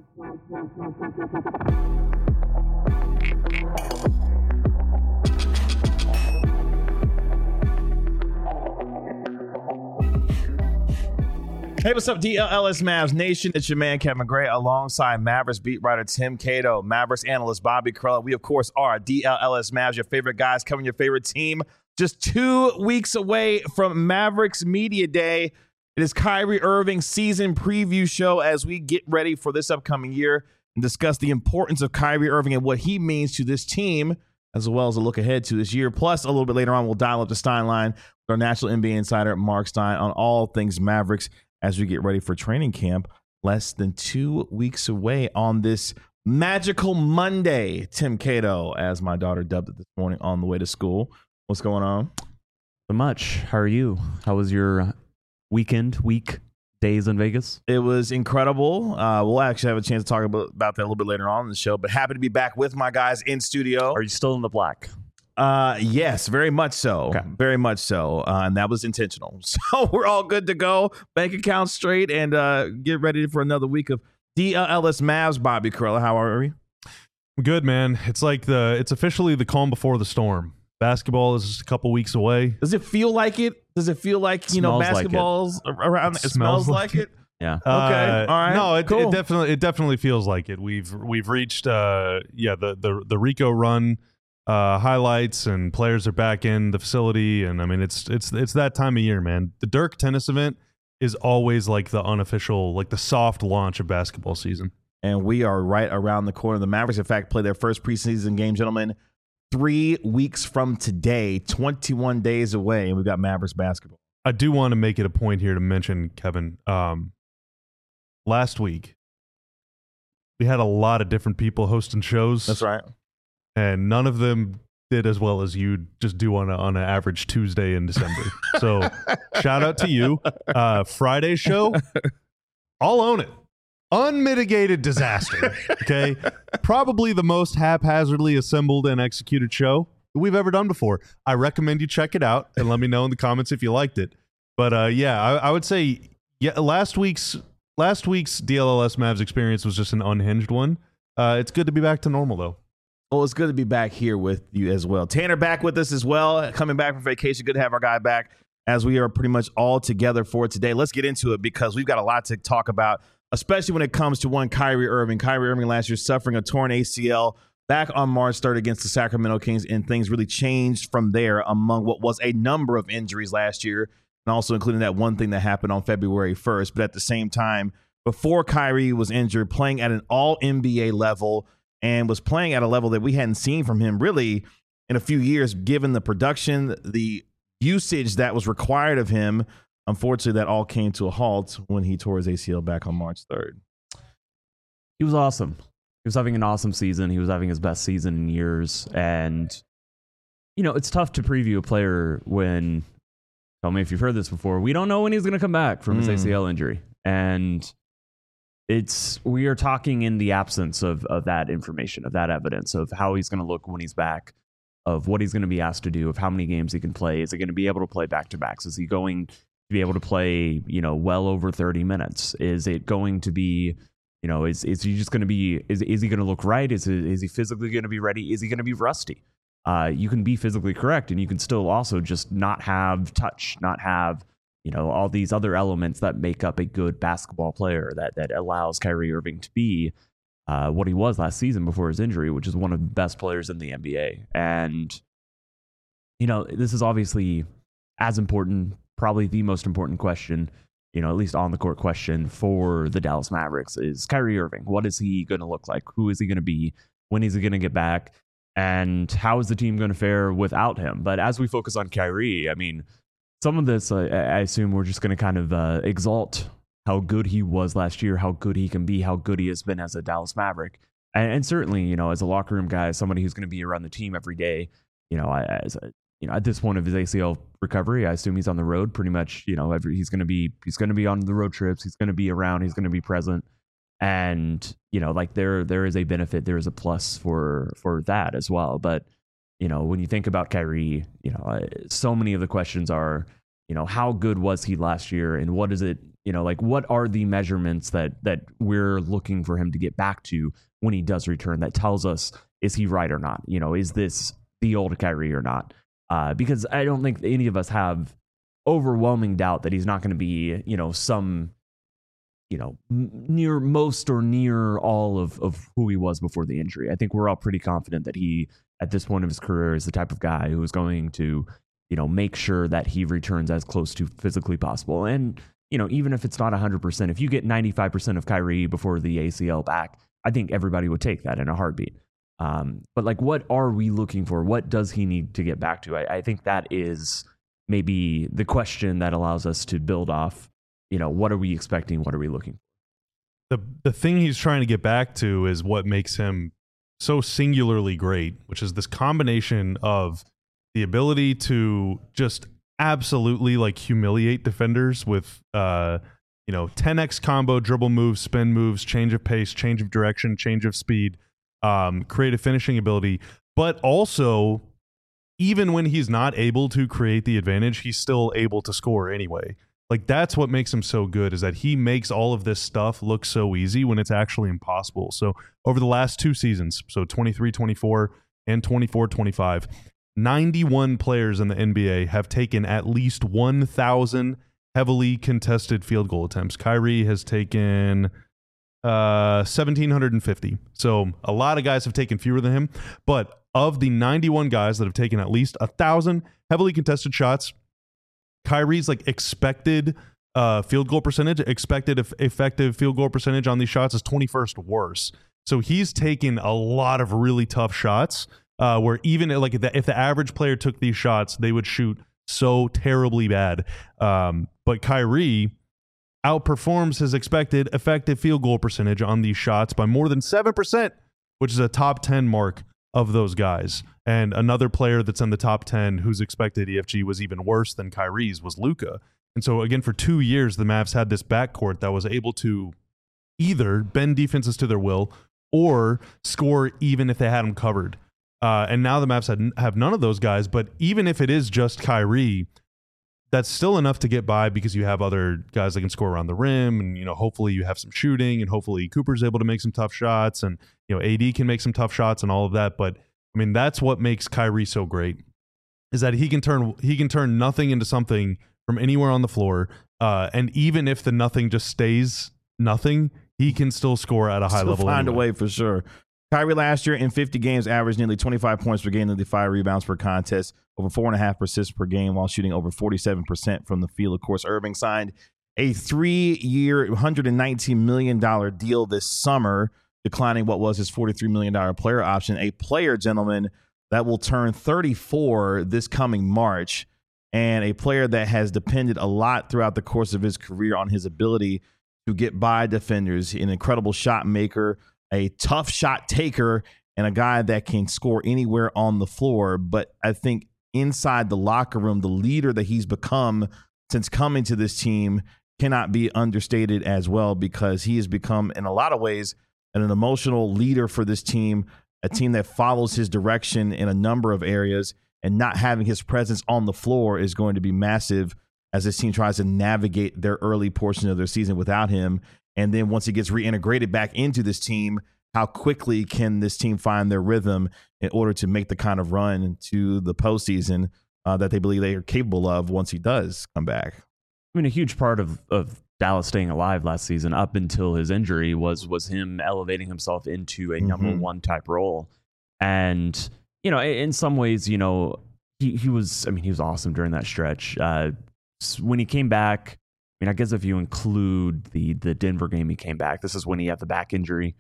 Hey, what's up, DLLS Mavs Nation? It's your man, Kevin Gray, alongside Mavericks beat writer Tim Cato, Mavericks analyst Bobby Karalla. We, of course, are DLLS Mavs, your favorite guys covering your favorite team. Just 2 weeks away from Mavericks Media Day. It is Kyrie Irving's season preview show as we get ready for this upcoming year and discuss the importance of Kyrie Irving and what he means to this team, as well as a look ahead to this year. Plus, a little bit later on, we'll dial up the Stein line with our national NBA insider, Mark Stein, on all things Mavericks as we get ready for training camp less than 2 weeks away on this magical Monday. Tim Cato, as my daughter dubbed it this morning on the way to school. What's going on? So much. How are you? How was your week days in Vegas? It was incredible. We'll actually have a chance to talk about that a little bit later on in the show, but happy to be back with my guys in studio. Are you still in the black? Yes, very much so. Okay. Very much so. And that was intentional. So we're all good to go. Bank account straight and get ready for another week of DLLS Mavs. Bobby Karalla, how are we? Good, man. It's like it's officially the calm before the storm. Basketball is just a couple weeks away. Does it feel like it? Does it feel like, basketball's around? It smells like it? Yeah. Okay. All right. No, cool. it definitely feels like it. We've reached the Rico run highlights, and players are back in the facility, and I mean it's that time of year, man. The Dirk tennis event is always like the unofficial, like the soft launch of basketball season. And we are right around the corner. The Mavericks, in fact, play their first preseason game, gentlemen, 3 weeks from today, 21 days away, and we've got Mavericks basketball. I do want to make it a point here to mention, Kevin, last week we had a lot of different people hosting shows. That's right. And none of them did as well as you just do on an average Tuesday in December. So shout out to you. Friday show, I'll own it. Unmitigated disaster. Okay. Probably the most haphazardly assembled and executed show that we've ever done before. I recommend you check it out and let me know in the comments if you liked it. But I would say last week's DLLS Mavs experience was just an unhinged one. It's good to be back to normal though. Well, it's good to be back here with you as well. Tanner back with us as well, coming back from vacation. Good to have our guy back as we are pretty much all together for today. Let's get into it because we've got a lot to talk about, especially when it comes to one Kyrie Irving. Kyrie Irving last year suffering a torn ACL back on March 3rd against the Sacramento Kings, and things really changed from there among what was a number of injuries last year, and also including that one thing that happened on February 1st. But at the same time, before Kyrie was injured, playing at an all-NBA level, and was playing at a level that we hadn't seen from him really in a few years, given the production, the usage that was required of him. Unfortunately, that all came to a halt when he tore his ACL back on March 3rd. He was awesome. He was having an awesome season. He was having his best season in years. And, it's tough to preview a player when, tell me if you've heard this before, we don't know when he's going to come back from his ACL injury. And we are talking in the absence of that information, of that evidence, of how he's going to look when he's back, of what he's going to be asked to do, of how many games he can play. Is he going to be able to play back-to-backs? Is he going to be able to play, well over 30 minutes? Is it going to be, is he just going to be, is he going to look right? Is he physically going to be ready? Is he going to be rusty? You can be physically correct, and you can still also just not have touch, not have all these other elements that make up a good basketball player that allows Kyrie Irving to be what he was last season before his injury, which is one of the best players in the NBA. And, this is obviously as important, probably the most important question, at least on the court question for the Dallas Mavericks is Kyrie Irving. What is he going to look like? Who is he going to be? When is he going to get back? And how is the team going to fare without him? But as we focus on Kyrie, I mean, some of this, I assume we're just going to kind of exalt how good he was last year, how good he can be, how good he has been as a Dallas Maverick. And certainly, as a locker room guy, somebody who's going to be around the team every day, at this point of his ACL recovery, I assume he's on the road pretty much, he's going to be on the road trips. He's going to be around. He's going to be present. And, there is a benefit. There is a plus for that as well. But, when you think about Kyrie, so many of the questions are, how good was he last year, and what does it Like what are the measurements that we're looking for him to get back to when he does return that tells us, is he right or not? Is this the old Kyrie or not? Because I don't think any of us have overwhelming doubt that he's not going to be, some, near most or near all of who he was before the injury. I think we're all pretty confident that he, at this point of his career, is the type of guy who is going to, make sure that he returns as close to physically possible. And, even if it's not 100%, if you get 95% of Kyrie before the ACL back, I think everybody would take that in a heartbeat. But like, what are we looking for? What does he need to get back to? I think that is maybe the question that allows us to build off, what are we expecting? What are we looking for? The thing he's trying to get back to is what makes him so singularly great, which is this combination of the ability to just absolutely like humiliate defenders with 10x combo, dribble moves, spin moves, change of pace, change of direction, change of speed, creative finishing ability, but also even when he's not able to create the advantage, he's still able to score anyway. Like that's what makes him so good, is that he makes all of this stuff look so easy when it's actually impossible. So over the last 2 seasons, so 23-24 and 24-25, 91 players in the NBA have taken at least 1,000 heavily contested field goal attempts. Kyrie has taken 1,750. So a lot of guys have taken fewer than him. But of the 91 guys that have taken at least 1,000 heavily contested shots, Kyrie's like expected field goal percentage, expected effective field goal percentage on these shots is 21st worse. So he's taken a lot of really tough shots where even like if the average player took these shots, they would shoot so terribly bad. But Kyrie outperforms his expected effective field goal percentage on these shots by more than 7%, which is a top 10 mark of those guys. And another player that's in the top 10 whose expected EFG was even worse than Kyrie's was Luka. And so again, for 2 years, the Mavs had this backcourt that was able to either bend defenses to their will or score even if they had them covered. And now the Mavs have none of those guys, but even if it is just Kyrie, that's still enough to get by because you have other guys that can score around the rim, and hopefully you have some shooting, and hopefully Cooper's able to make some tough shots, and AD can make some tough shots and all of that. But I mean, that's what makes Kyrie so great, is that he can turn nothing into something from anywhere on the floor, and even if the nothing just stays nothing, he can still score at a high level. Find a way for sure. Kyrie last year in 50 games averaged nearly 25 points per game, nearly 5 rebounds per contest, over 4.5 assists per game while shooting over 47% from the field. Of course, Irving signed a 3-year, $119 million deal this summer, declining what was his $43 million player option. A player, gentlemen, that will turn 34 this coming March, and a player that has depended a lot throughout the course of his career on his ability to get by defenders, an incredible shot maker, a tough shot taker, and a guy that can score anywhere on the floor. But I think inside the locker room, the leader that he's become since coming to this team cannot be understated as well, because he has become, in a lot of ways, an emotional leader for this team, a team that follows his direction in a number of areas, and not having his presence on the floor is going to be massive as this team tries to navigate their early portion of their season without him. And then once he gets reintegrated back into this team, how quickly can this team find their rhythm in order to make the kind of run to the postseason that they believe they are capable of once he does come back? I mean, a huge part of Dallas staying alive last season up until his injury was him elevating himself into a number one type role. And, in some ways, he was awesome during that stretch. When he came back, I guess if you include the Denver game he came back, this is when he had the back injury.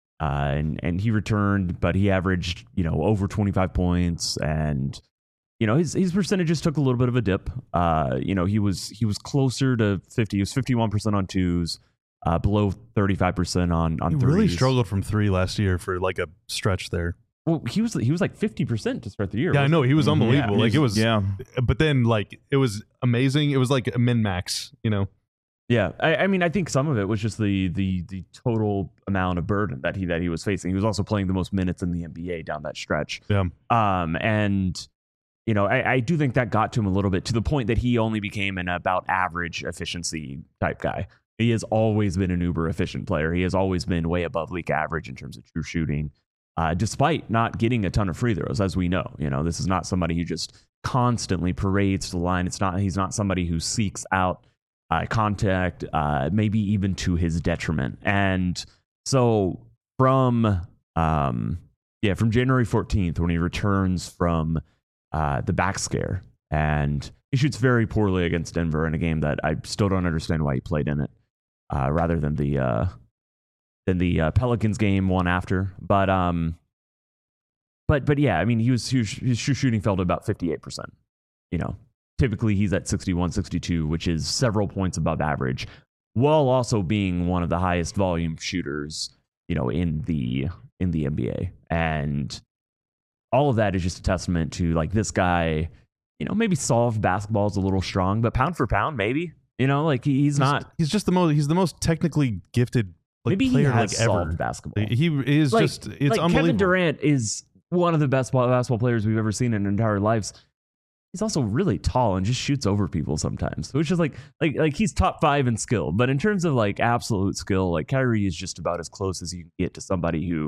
And he returned, but he averaged, over 25 points, and, his percentages took a little bit of a dip. He was closer to 50. He was 51% on twos, below 35% on threes. He really struggled from 3 last year for like a stretch there. Well, he was like 50% to start the year. Yeah, I know. He was unbelievable. Yeah, but then it was amazing. It was like a min-max, Yeah, I think some of it was just the total amount of burden that he was facing. He was also playing the most minutes in the NBA down that stretch. Yeah. And I do think that got to him a little bit, to the point that he only became an about average efficiency type guy. He has always been an uber efficient player. He has always been way above league average in terms of true shooting, despite not getting a ton of free throws, as we know. This is not somebody who just constantly parades to the line. He's not somebody who seeks out contact, maybe even to his detriment. And so from January 14th, when he returns from the back scare, and he shoots very poorly against Denver in a game that I still don't understand why he played in it, rather than the Pelicans game one after. But yeah, I mean, his shooting fell to about 58%. Typically he's at 61, 62, which is several points above average, while also being one of the highest volume shooters, in the NBA. And all of that is just a testament to, like, this guy, maybe soft basketball is a little strong, but pound for pound, maybe, he's not. He's just the most technically gifted maybe player he has ever. Solved basketball. He is it's unbelievable. Kevin Durant is one of the best basketball players we've ever seen in our entire lives. He's also really tall and just shoots over people sometimes, which is like he's top 5 in skill. But in terms of like absolute skill, like Kyrie is just about as close as you can get to somebody who,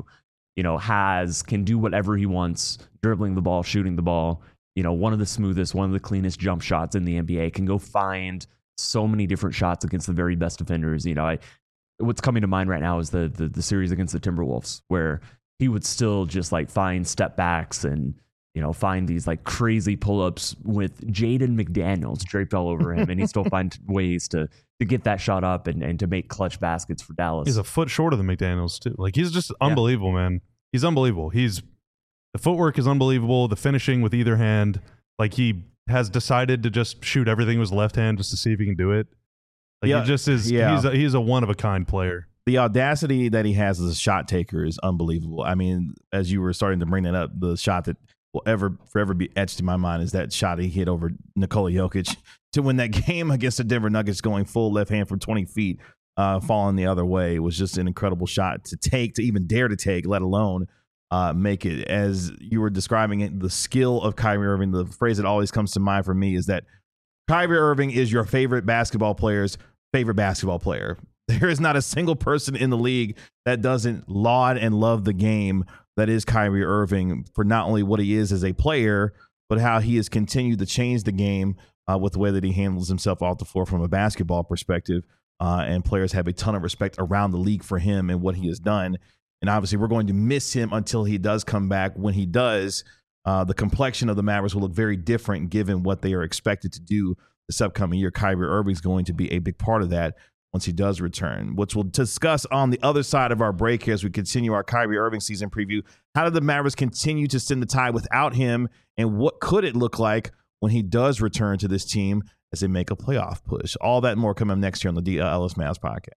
can do whatever he wants, dribbling the ball, shooting the ball, one of the smoothest, one of the cleanest jump shots in the NBA, can go find so many different shots against the very best defenders. What's coming to mind right now is the series against the Timberwolves, where he would still just like find step backs and, find these like crazy pull-ups with Jaden McDaniels draped all over him, and he still finds ways to get that shot up and to make clutch baskets for Dallas. He's a foot shorter than McDaniels too. Like, he's just unbelievable, man. He's unbelievable. The footwork is unbelievable. The finishing with either hand, like, he has decided to just shoot everything with his left hand just to see if he can do it. Like, he just is. Yeah. He's a one of a kind player. The audacity that he has as a shot taker is unbelievable. I mean, as you were starting to bring that up, the shot that will forever be etched in my mind is that shot he hit over Nikola Jokic to win that game against the Denver Nuggets, going full left hand from 20 feet, falling the other way. It was just an incredible shot to even dare to take, let alone make it. As you were describing it, the skill of Kyrie Irving, the phrase that always comes to mind for me is that Kyrie Irving is your favorite basketball player's favorite basketball player. There is not a single person in the league that doesn't laud and love the game that is Kyrie Irving, for not only what he is as a player, but how he has continued to change the game with the way that he handles himself off the floor from a basketball perspective. And players have a ton of respect around the league for him and what he has done. And obviously we're going to miss him until he does come back. When he does, the complexion of the Mavericks will look very different given what they are expected to do this upcoming year. Kyrie Irving is going to be a big part of that once he does return, which we'll discuss on the other side of our break here as we continue our Kyrie Irving season preview. How did the Mavericks continue to stem the tide without him, and what could it look like when he does return to this team as they make a playoff push? All that and more coming up next year on the DLS Mavs podcast.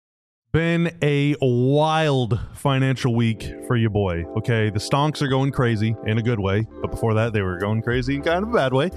Been a wild financial week for your boy. Okay, the stonks are going crazy in a good way, but before that they were going crazy in kind of a bad way.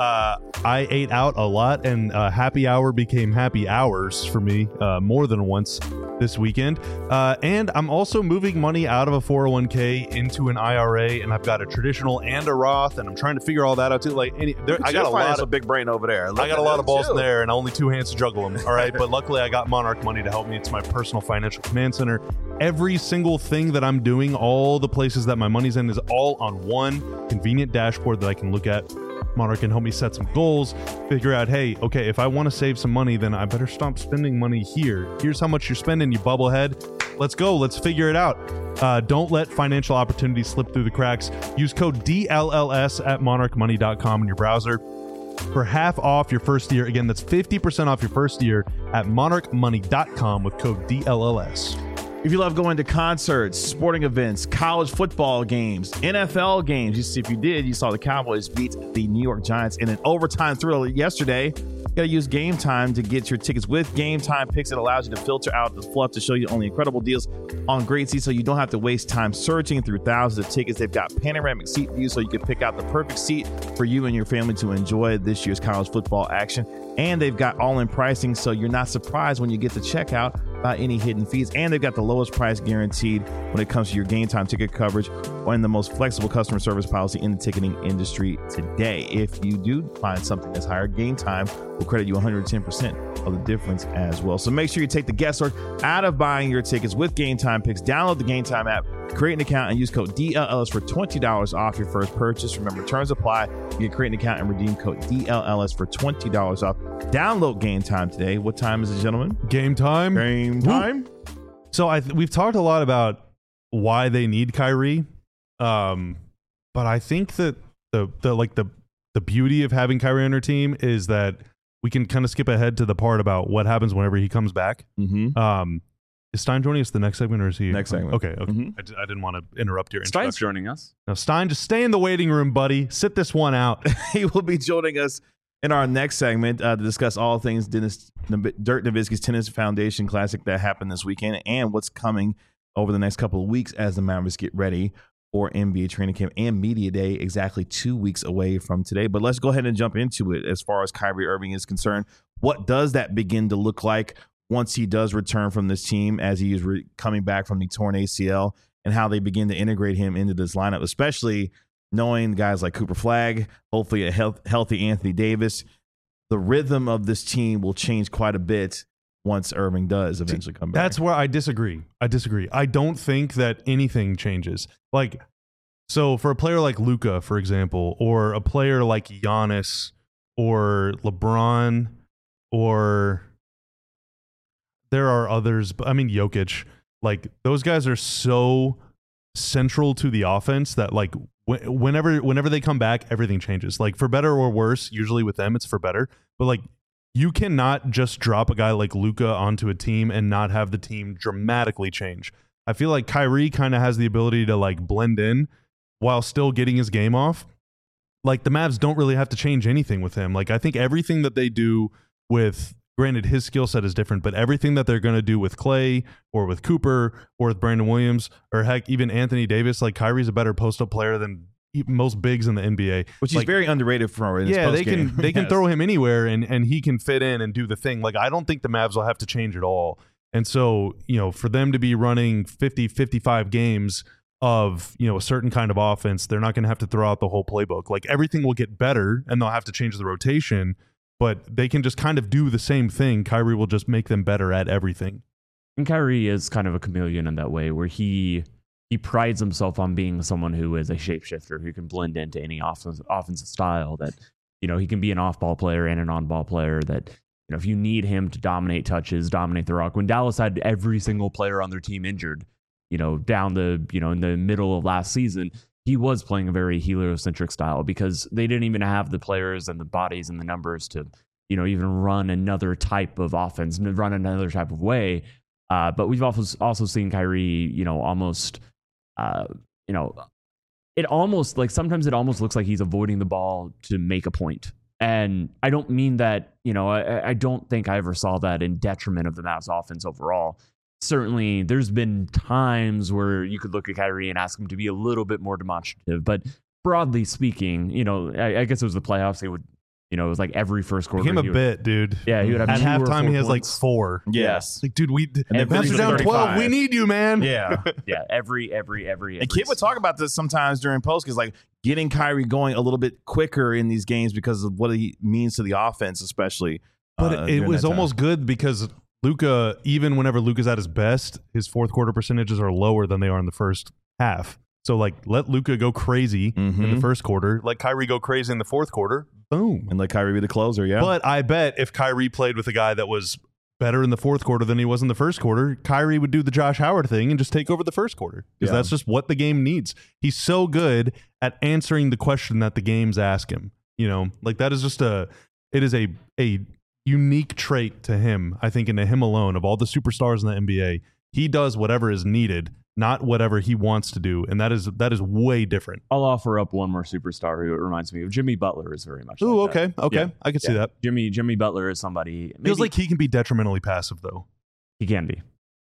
I ate out a lot, and happy hour became happy hours for me more than once this weekend. And I'm also moving money out of a 401k into an IRA, and I've got a traditional and a Roth, and I'm trying to figure all that out too. Like, I got a lot of big brain over there. I got a lot of balls in there, and only 2 hands to juggle them. All right, but luckily I got Monarch Money to help me. It's my personal financial command center. Every single thing that I'm doing, all the places that my money's in, is all on one convenient dashboard that I can look at. Monarch can help me set some goals, figure out, hey, okay, if I want to save some money, then I better stop spending money here. Here's how much you're spending, you bubblehead. Let's go. Let's figure it out. Don't let financial opportunities slip through the cracks. Use code DLLS at monarchmoney.com in your browser for half off your first year. Again, that's 50% off your first year at monarchmoney.com with code DLLS. If you love going to concerts, sporting events, college football games, NFL games, if you saw the Cowboys beat the New York Giants in an overtime thriller yesterday. You got to use Game Time to get your tickets. With Game Time Picks, it allows you to filter out the fluff to show you only incredible deals on great seats, so you don't have to waste time searching through thousands of tickets. They've got panoramic seat views, so you can pick out the perfect seat for you and your family to enjoy this year's college football action. And they've got all-in pricing, so you're not surprised when you get to checkout without any hidden fees. And they've got the lowest price guaranteed when it comes to your Game Time ticket coverage and the most flexible customer service policy in the ticketing industry today. If you do find something that's higher, Game Time will credit you 110% of the difference as well. So make sure you take the guesswork out of buying your tickets with Game Time Picks. Download the Game Time app, create an account, and use code DLLS for $20 off your first purchase. Remember, terms apply. You can create an account and redeem code DLLS for $20 off. Download Game Time today. What time is it, gentlemen? Game time. Game time. So we've talked a lot about why they need Kyrie, but I think that the beauty of having Kyrie on our team is that we can kind of skip ahead to the part about what happens whenever he comes back. Mm-hmm. Is Stein joining us the next segment, or is he Next segment? Okay. Mm-hmm. I didn't want to interrupt your Stein's introduction. joining us. Now, Stein, just stay in the waiting room, buddy. Sit this one out. He will be joining us in our next segment to discuss all things Dirk Nowitzki's Tennis Foundation Classic that happened this weekend and what's coming over the next couple of weeks as the Mavericks get ready for NBA training camp and media day exactly 2 weeks away from today. But let's go ahead and jump into it. As far as Kyrie Irving is concerned, what does that begin to look like once he does return from this team, as he is coming back from the torn ACL, and how they begin to integrate him into this lineup, especially knowing guys like Cooper Flagg, hopefully a healthy Anthony Davis. The rhythm of this team will change quite a bit once Irving does eventually come back. That's where I disagree. I don't think that anything changes. Like, so for a player like Luka, for example, or a player like Giannis or LeBron, or there are others, but I mean Jokic, like those guys are so central to the offense that like whenever they come back, everything changes. Like for better or worse, usually with them it's for better. But like you cannot just drop a guy like Luka onto a team and not have the team dramatically change. I feel like Kyrie kind of has the ability to like blend in while still getting his game off. Like the Mavs don't really have to change anything with him. Like I think everything that they do with, granted his skill set is different, but everything that they're going to do with Clay or with Cooper or with Brandon Williams or heck, even Anthony Davis, like Kyrie's a better post-up player than most bigs in the NBA. Which like, he's very underrated for. In his they can Yes. throw him anywhere and he can fit in and do the thing. Like I don't think the Mavs will have to change at all. And so, you know, for them to be running 50, 55 games of, you know, a certain kind of offense, they're not going to have to throw out the whole playbook. Like everything will get better and they'll have to change the rotation, but they can just kind of do the same thing. Kyrie will just make them better at everything. And Kyrie is kind of a chameleon in that way, where he prides himself on being someone who is a shapeshifter, who can blend into any offensive style. That, you know, he can be an off-ball player and an on-ball player. That, you know, if you need him to dominate touches, dominate the rock. When Dallas had every single player on their team injured, you know, down the, you know, in the middle of last season, he was playing a very heliocentric style because they didn't even have the players and the bodies and the numbers to, you know, even run another type of offense, run another type of way. But we've also seen Kyrie, you know, almost, you know, it almost like sometimes it almost looks like he's avoiding the ball to make a point. And I don't mean that, you know, I don't think I ever saw that in detriment of the Mavs offense overall. Certainly, there's been times where you could look at Kyrie and ask him to be a little bit more demonstrative. But broadly speaking, you know, I guess it was the playoffs. They would, you know, it was like every first quarter. Give him a bit, dude. Yeah, he would have at 2 or halftime. 4 He has like points. 4. Yes. Like, dude, then Mavs are down 12. We need you, man. Yeah. Yeah, every. And Kid would talk about this sometimes during post, because like getting Kyrie going a little bit quicker in these games because of what he means to the offense, especially. But it was almost good because Luka, even whenever Luka's at his best, his fourth quarter percentages are lower than they are in the first half. So like let Luka go crazy in the first quarter, let Kyrie go crazy in the fourth quarter. Boom. And let Kyrie be the closer, yeah. But I bet if Kyrie played with a guy that was better in the fourth quarter than he was in the first quarter, Kyrie would do the Josh Howard thing and just take over the first quarter. Because that's just what the game needs. He's so good at answering the question that the games ask him. You know, like that is just it is a unique trait to him, I think, and to him alone. Of all the superstars in the NBA, he does whatever is needed, not whatever he wants to do, and that is way different. I'll offer up one more superstar who it reminds me of. Jimmy Butler is very much. Ooh, like that. okay, Yeah. I can see that. Jimmy Butler is somebody. Feels like he can be detrimentally passive, though. He can be.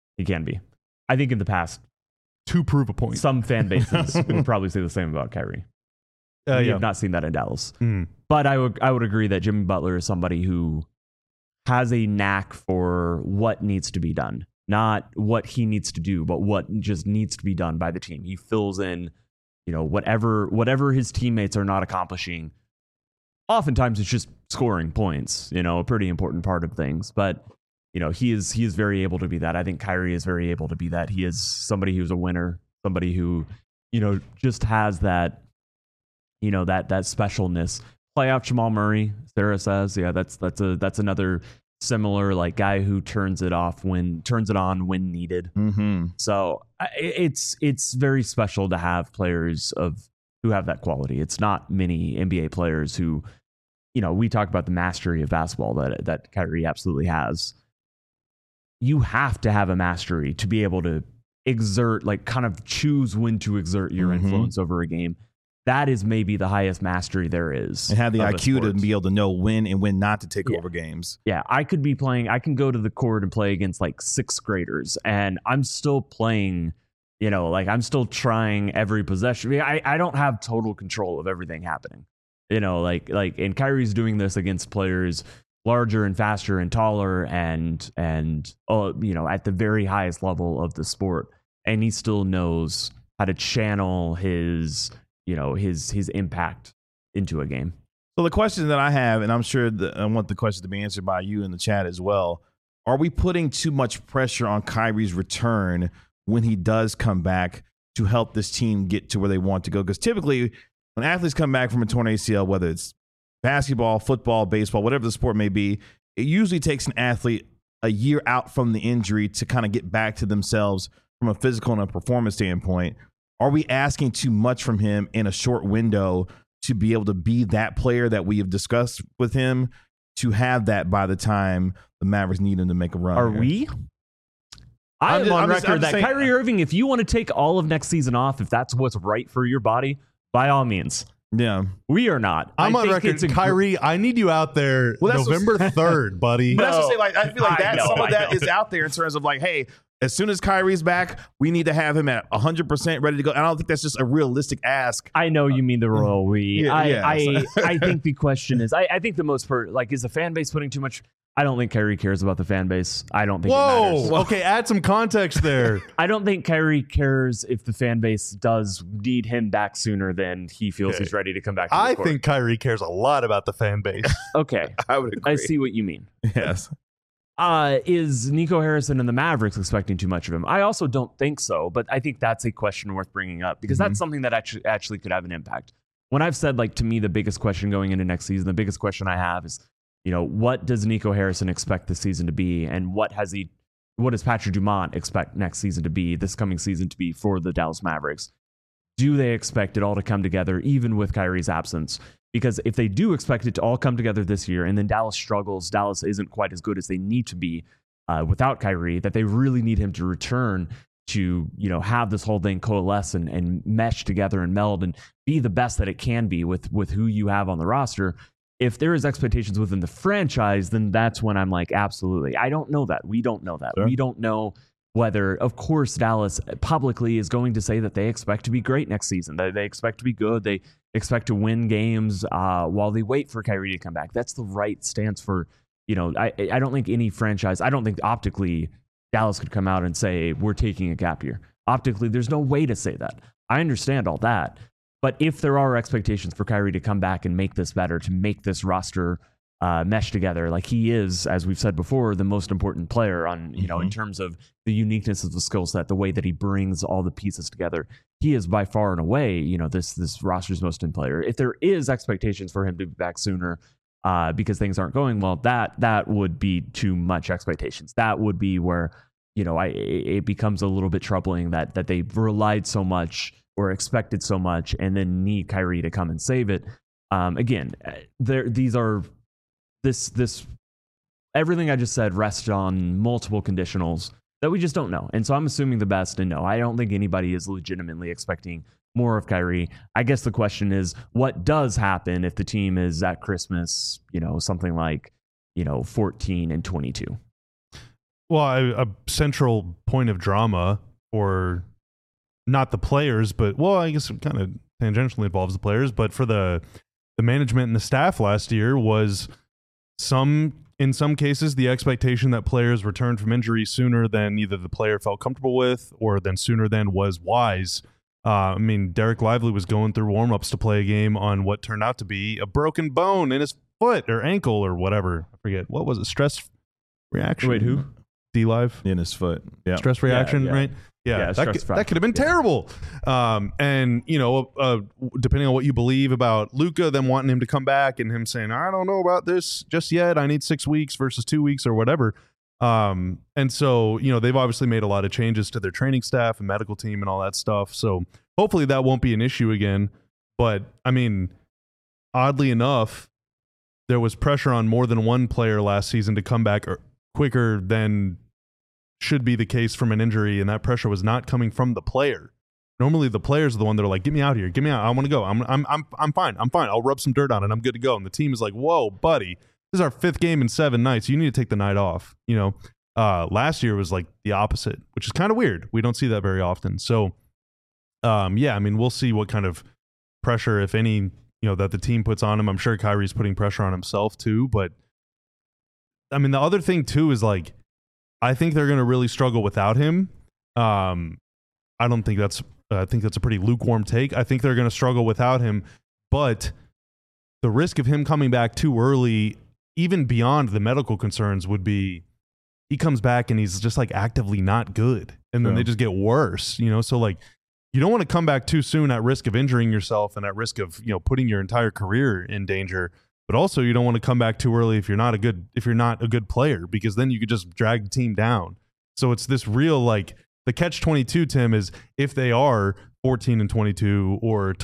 I think in the past, To prove a point. some fan bases would probably say the same about Kyrie. We Yeah. have not seen that in Dallas. Mm. But I would agree that Jimmy Butler is somebody who has a knack for what needs to be done. not what he needs to do, but what just needs to be done by the team. He fills in, whatever his teammates are not accomplishing. Oftentimes it's just scoring points, a pretty important part of things. But, he is very able to be that. I think Kyrie is very able to be that. He is somebody who's a winner, somebody who, just has that, that specialness. Playoff Jamal Murray, Sarah says, yeah, that's another similar like guy who turns it on when needed. Mm-hmm. So it's very special to have players who have that quality. It's not many NBA players who, we talk about the mastery of basketball that Kyrie absolutely has. You have to have a mastery to be able to exert, like kind of choose when to exert your influence over a game. That is maybe the highest mastery there is. And have the IQ to be able to know when and when not to take over games. Yeah, I can go to the court and play against like 6th graders, and I'm still playing, I'm still trying every possession. I don't have total control of everything happening. And Kyrie's doing this against players larger and faster and taller and at the very highest level of the sport. And he still knows how to channel his impact into a game. So the question that I have, and I'm sure I want the question to be answered by you in the chat as well, are we putting too much pressure on Kyrie's return when he does come back to help this team get to where they want to go? Because typically when athletes come back from a torn ACL, whether it's basketball, football, baseball, whatever the sport may be, it usually takes an athlete a year out from the injury to kind of get back to themselves from a physical and a performance standpoint. Are we asking too much from him in a short window to be able to be that player that we have discussed with him, to have that by the time the Mavericks need him to make a run? Are we? I'm on record that Kyrie Irving, if you want to take all of next season off, if that's what's right for your body, by all means. Yeah. We are not. I'm on record. Kyrie, I need you out there November 3rd, buddy. But that's to say, like, I feel like some of that is out there in terms of like, hey, as soon as Kyrie's back, we need to have him at 100% ready to go. And I don't think that's just a realistic ask. I know you mean the royal we. Yeah, I think the question is, I think the most is the fan base putting too much? I don't think Kyrie cares about the fan base. I don't think it matters. Okay, add some context there. I don't think Kyrie cares if the fan base does need him back sooner than he feels he's ready to come back to the court. Think Kyrie cares a lot about the fan base. Okay. I would agree. I see what you mean. Yes. Is Nico Harrison and the Mavericks expecting too much of him? I also don't think so, but I think that's a question worth bringing up because that's something that actually could have an impact. When I've said, like, to me, the biggest question going into next season, the biggest question I have is, what does Nico Harrison expect this season to be? And what does Patrick Dumont expect next season to be, this coming season to be for the Dallas Mavericks? Do they expect it all to come together, even with Kyrie's absence? Because if they do expect it to all come together this year and then Dallas struggles, Dallas isn't quite as good as they need to be without Kyrie, that they really need him to return to, have this whole thing coalesce and mesh together and meld and be the best that it can be with who you have on the roster. If there is expectations within the franchise, then that's when I'm like, absolutely. I don't know that. We don't know that. Sure. We don't know whether, of course, Dallas publicly is going to say that they expect to be great next season. They expect to be good. They expect to win games while they wait for Kyrie to come back. That's the right stance for, I don't think any franchise, I don't think optically Dallas could come out and say, we're taking a gap year. Optically, there's no way to say that. I understand all that. But if there are expectations for Kyrie to come back and make this better, to make this roster mesh together, like he is, as we've said before, the most important player on, in terms of the uniqueness of the skill set, the way that he brings all the pieces together. He is by far and away, this roster's most important player. If there is expectations for him to be back sooner because things aren't going well, that would be too much expectations. That would be where, it becomes a little bit troubling that they've relied so much or expected so much and then need Kyrie to come and save it. Again, this everything I just said rests on multiple conditionals that we just don't know. And so I'm assuming the best, and no, I don't think anybody is legitimately expecting more of Kyrie. I guess the question is, what does happen if the team is at Christmas, something like, 14-22? Well, a central point of drama for not the players, but, well, I guess it kind of tangentially involves the players, but for the management and the staff last year was some in some cases, the expectation that players return from injury sooner than either the player felt comfortable with or than sooner than was wise. I mean, Derek Lively was going through warm-ups to play a game on what turned out to be a broken bone in his foot or ankle or whatever. I forget. What was it? Stress reaction? Wait, who? D-Live? In his foot. Yeah. Stress reaction, right? Yeah, that could have been terrible. And, you know, depending on what you believe about Luka, them wanting him to come back and him saying, I don't know about this just yet. I need 6 weeks versus 2 weeks or whatever. And so, you know, they've obviously made a lot of changes to their training staff and medical team and all that stuff. So hopefully that won't be an issue again. But, I mean, oddly enough, there was pressure on more than one player last season to come back quicker than should be the case from an injury, and that pressure was not coming from the player. Normally the players are the one that are like, get me out here, get me out, I want to go, I'm fine, I'll rub some dirt on it, I'm good to go. And the team is like, whoa, buddy, this is our 5th game in 7 nights, you need to take the night off. You know, last year was like the opposite, which is kind of weird. We don't see that very often. So yeah, I mean, we'll see what kind of pressure, if any, you know, that the team puts on him. I'm sure Kyrie's putting pressure on himself too, but I mean, the other thing too is like, I think they're going to really struggle without him. I think that's a pretty lukewarm take. I think they're going to struggle without him, but the risk of him coming back too early, even beyond the medical concerns, would be he comes back and he's just like actively not good, and then they just get worse, you know? So like, you don't want to come back too soon at risk of injuring yourself and at risk of, you know, putting your entire career in danger. But also, you don't want to come back too early if you're not a good player, because then you could just drag the team down. So it's this real, like, the catch-22, Tim, is if they are 14-22 or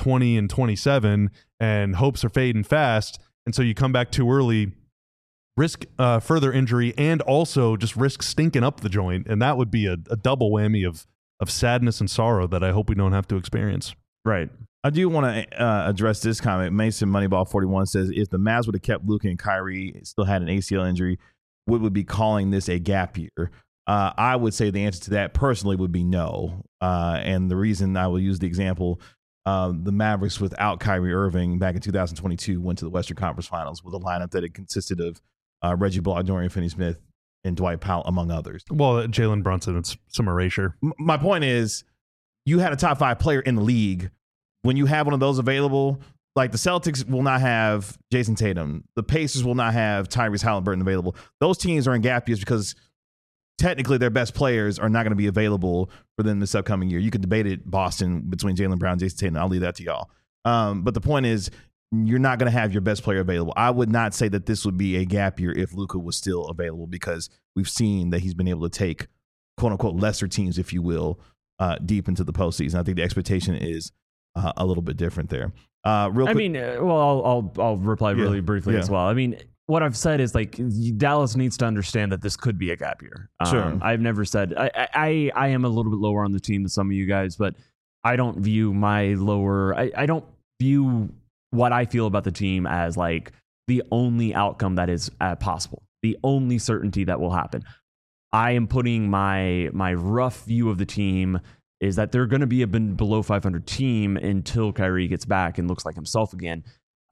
20-27 and hopes are fading fast, and so you come back too early, risk further injury and also just risk stinking up the joint, and that would be a double whammy of sadness and sorrow that I hope we don't have to experience. Right. I do want to address this comment. Mason Moneyball 41 says, if the Mavs would have kept Luka and Kyrie, still had an ACL injury, would be calling this a gap year? I would say the answer to that personally would be no. And the reason I will use the example, the Mavericks without Kyrie Irving back in 2022 went to the Western Conference Finals with a lineup that it consisted of Reggie Bullock, Dorian Finney-Smith, and Dwight Powell, among others. Well, Jalen Brunson, it's some erasure. My point is, you had a top 5 player in the league. When you have one of those available, like the Celtics will not have Jason Tatum. The Pacers will not have Tyrese Halliburton available. Those teams are in gap years because technically their best players are not going to be available for them this upcoming year. You could debate it, Boston, between Jaylen Brown and Jason Tatum. I'll leave that to y'all. But the point is, you're not going to have your best player available. I would not say that this would be a gap year if Luka was still available, because we've seen that he's been able to take, quote unquote, lesser teams, if you will, deep into the postseason. I think the expectation is a little bit different there. Real quick. I mean, well, I'll reply really briefly as well. I mean, what I've said is like Dallas needs to understand that this could be a gap year. Sure. I've never said I am a little bit lower on the team than some of you guys, but I don't view my lower. I don't view what I feel about the team as like the only outcome that is possible, the only certainty that will happen. I am putting my rough view of the team is that they're going to be a below 500 team until Kyrie gets back and looks like himself again.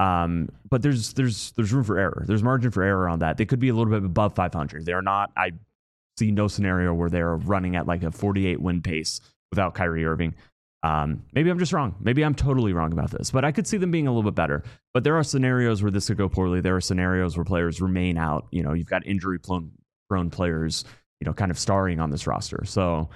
But there's room for error. There's margin for error on that. They could be a little bit above 500. They're not. I see no scenario where they're running at like a 48 win pace without Kyrie Irving. Maybe I'm just wrong. Maybe I'm totally wrong about this, but I could see them being a little bit better. But there are scenarios where this could go poorly. There are scenarios where players remain out. You know, you've got injury prone players, you know, kind of starring on this roster. So,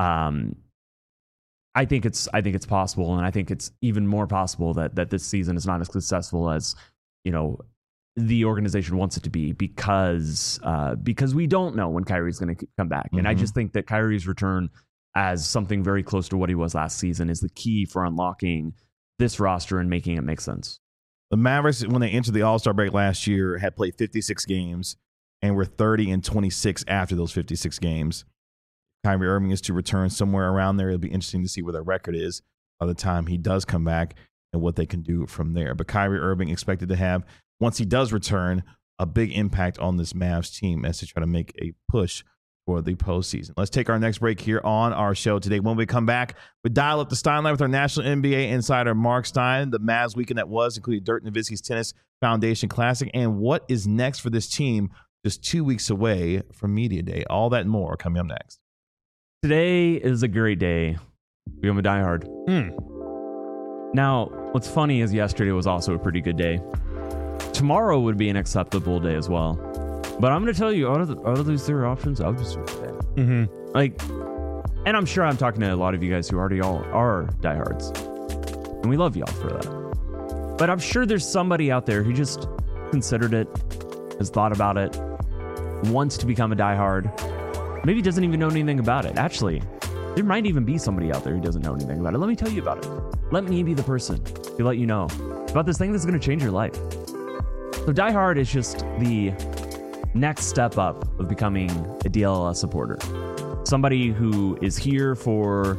I think it's possible, and I think it's even more possible that this season is not as successful as, you know, the organization wants it to be, because we don't know when Kyrie's going to come back. Mm-hmm. And I just think that Kyrie's return as something very close to what he was last season is the key for unlocking this roster and making it make sense. The Mavericks, when they entered the All-Star break last year, had played 56 games and were 30-26 after those 56 games. Kyrie Irving is to return somewhere around there. It'll be interesting to see where their record is by the time he does come back and what they can do from there. But Kyrie Irving expected to have, once he does return, a big impact on this Mavs team as they try to make a push for the postseason. Let's take our next break here on our show today. When we come back, we dial up the Steinline with our national NBA insider, Mark Stein, the Mavs weekend that was, including Dirk Nowitzki's Tennis Foundation Classic, and what is next for this team just 2 weeks away from Media Day. All that and more coming up next. Today is a great day. I'm a diehard. Now, what's funny is yesterday was also a pretty good day. Tomorrow would be an acceptable day as well. But I'm going to tell you, out of these three options, I'll just do today. Like, and I'm sure I'm talking to a lot of you guys who already all are diehards. And we love y'all for that. But I'm sure there's somebody out there who just considered it, has thought about it, wants to become a diehard, maybe doesn't even know anything about it. Actually, there might even be somebody out there who doesn't know anything about it. Let me tell you about it. Let me be the person to let you know about this thing that's going to change your life. So Die Hard is just the next step up of becoming a DLLS supporter. Somebody who is here for,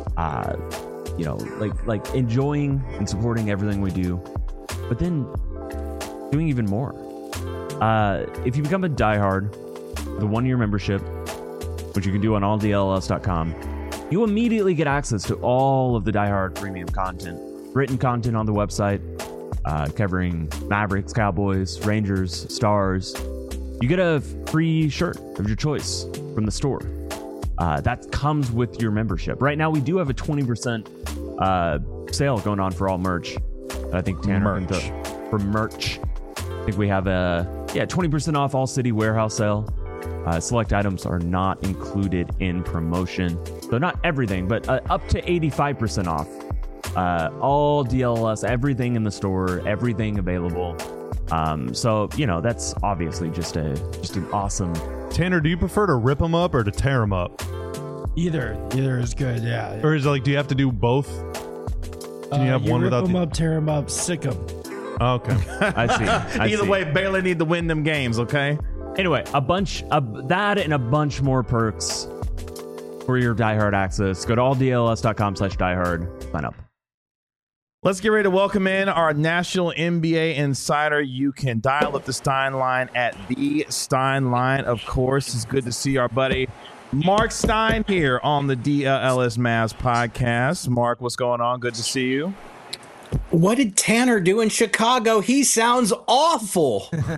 like enjoying and supporting everything we do, but then doing even more. If you become a Die Hard, the 1-year membership, which you can do on alldlls.com, you immediately get access to all of the Die Hard premium content, written content on the website, covering Mavericks, Cowboys, Rangers, Stars. You get a free shirt of your choice from the store. That comes with your membership. Right now, we do have a 20% sale going on for all merch. I think Tanner for merch. I think we have a 20% off all City Warehouse sale. Select items are not included in promotion. So not everything, but up to 85% off. All DLS, everything in the store, everything available. So, that's obviously just an awesome. Tanner, do you prefer to rip them up or to tear them up? Either is good, yeah. Or is it like, do you have to do both? Can you have one without rip them up, tear them up, sick them. Oh, okay. I see. Either way, Baylor need to win them games, okay? Anyway, a bunch of that and a bunch more perks for your diehard access. Go to alldls.com/diehard. Sign up. Let's get ready to welcome in our national NBA insider. You can dial up the Stein line at the Stein line. Of course, it's good to see our buddy Mark Stein here on the DLS Mavs podcast. Mark, what's going on? Good to see you. What did Tanner do in Chicago? He sounds awful. Well,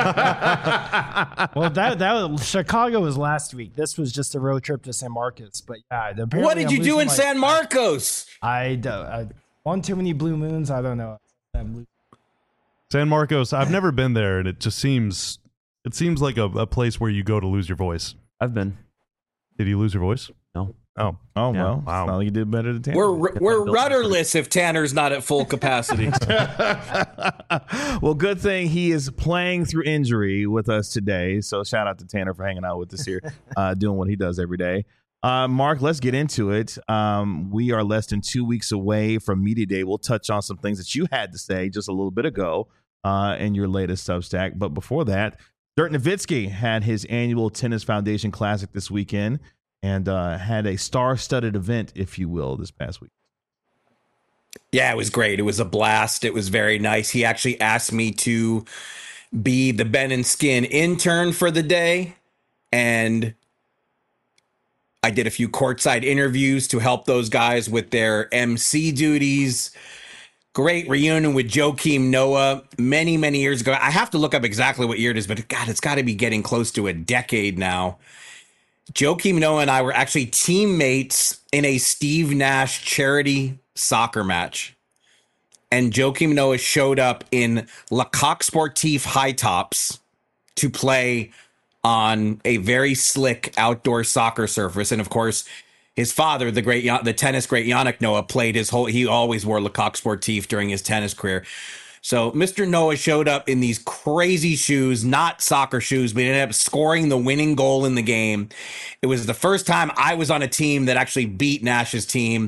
that was Chicago was last week. This was just a road trip to San Marcos. But yeah, what did you do in San Marcos? I won too many blue moons. I don't know. San Marcos. I've never been there, and it seems like a place where you go to lose your voice. I've been. Did you lose your voice? No. Oh, yeah. Well, wow. Well, you did better than Tanner. We're rudderless if Tanner's not at full capacity. Well, good thing he is playing through injury with us today. So shout out to Tanner for hanging out with us here, doing what he does every day. Mark, let's get into it. We are less than 2 weeks away from Media Day. We'll touch on some things that you had to say just a little bit ago in your latest Substack. But before that, Dirk Nowitzki had his annual Tennis Foundation Classic this weekend and had a star-studded event, if you will, this past week. Yeah, it was great. It was a blast. It was very nice. He actually asked me to be the Ben and Skin intern for the day, and I did a few courtside interviews to help those guys with their MC duties. Great reunion with Joakim Noah many, many years ago. I have to look up exactly what year it is, but God, it's got to be getting close to a decade now. Joakim Noah and I were actually teammates in a Steve Nash charity soccer match. And Joakim Noah showed up in Le Coq Sportif high tops to play on a very slick outdoor soccer surface. And of course, his father, the tennis great Yannick Noah, he always wore Le Coq Sportif during his tennis career. So Mr. Noah showed up in these crazy shoes, not soccer shoes, but he ended up scoring the winning goal in the game. It was the first time I was on a team that actually beat Nash's team.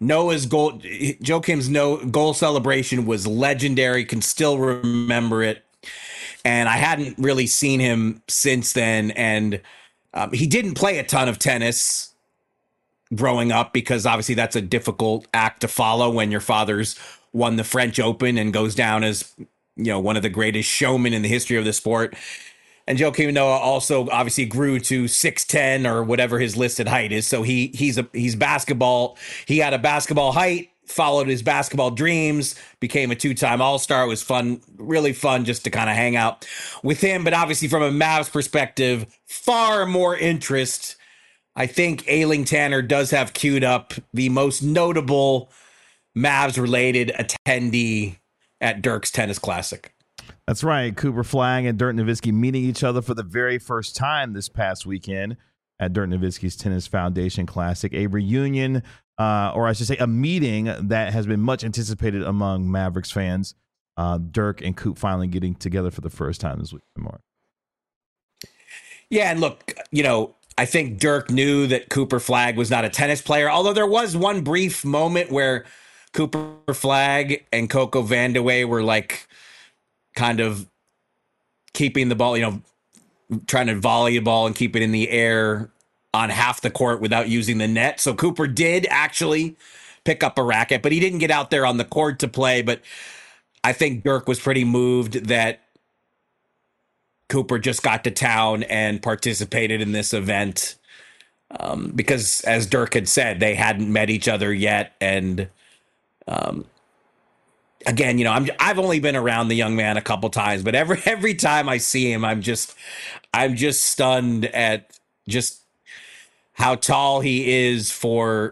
Joakim's goal celebration was legendary, can still remember it. And I hadn't really seen him since then. And he didn't play a ton of tennis growing up because obviously that's a difficult act to follow when your father's won the French Open and goes down as, one of the greatest showmen in the history of the sport. And Joakim Noah also obviously grew to 6'10" or whatever his listed height is. So he's basketball. He had a basketball height, followed his basketball dreams, became a 2-time All-Star. It was fun, really fun just to kind of hang out with him. But obviously from a Mavs perspective, far more interest. I think Ailing Tanner does have queued up the most notable Mavs-related attendee at Dirk's Tennis Classic. That's right. Cooper Flagg and Dirk Nowitzki meeting each other for the very first time this past weekend at Dirk Nowitzki's Tennis Foundation Classic. A reunion, or I should say a meeting that has been much anticipated among Mavericks fans. Dirk and Coop finally getting together for the first time this weekend, Mark. Yeah, and look, I think Dirk knew that Cooper Flagg was not a tennis player, although there was one brief moment where Cooper Flagg and Coco Vandeweghe were like kind of keeping the ball, trying to volley the ball and keep it in the air on half the court without using the net. So Cooper did actually pick up a racket, but he didn't get out there on the court to play. But I think Dirk was pretty moved that Cooper just got to town and participated in this event because, as Dirk had said, they hadn't met each other yet. And again, I've only been around the young man a couple times, but every time I see him, I'm just stunned at just how tall he is for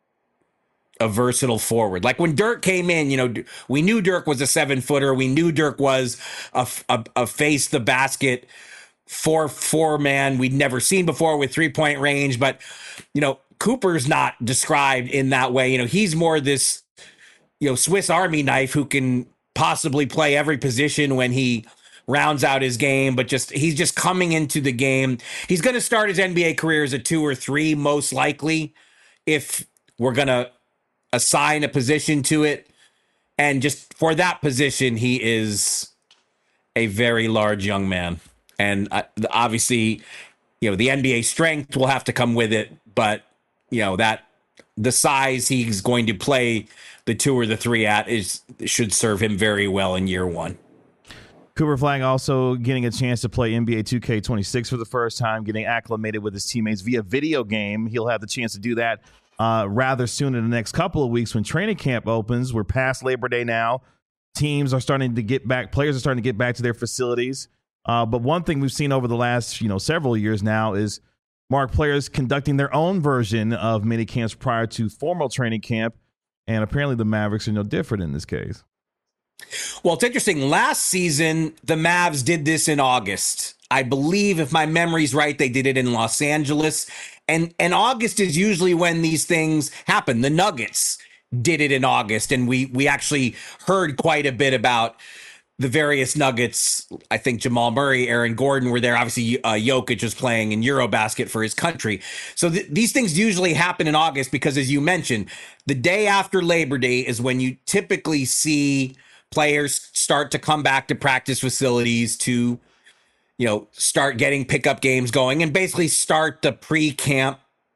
a versatile forward. Like when Dirk came in, we knew Dirk was a 7-footer. We knew Dirk was a face the basket 4 man we'd never seen before with 3-point range. But, Cooper's not described in that way. He's more this, Swiss Army knife who can possibly play every position when he rounds out his game, but he's just coming into the game. He's going to start his NBA career as a 2 or 3, most likely, if we're going to assign a position to it. And just for that position, he is a very large young man. And obviously, the NBA strength will have to come with it, but that the size he's going to play the 2 or the 3 at should serve him very well in year 1. Cooper Flagg also getting a chance to play NBA 2K26 for the first time, getting acclimated with his teammates via video game. He'll have the chance to do that rather soon in the next couple of weeks when training camp opens. We're past Labor Day now. Teams are starting to get back. Players are starting to get back to their facilities. But one thing we've seen over the last several years now is players conducting their own version of mini camps prior to formal training camp. And apparently the Mavericks are no different in this case. Well, it's interesting. Last season, the Mavs did this in August. I believe, if my memory's right, they did it in Los Angeles. And August is usually when these things happen. The Nuggets did it in August, and we actually heard quite a bit about the various Nuggets. I think Jamal Murray, Aaron Gordon were there. Obviously, Jokic was playing in Eurobasket for his country. So these things usually happen in August because, as you mentioned, the day after Labor Day is when you typically see players start to come back to practice facilities to, start getting pickup games going and basically start the pre-camp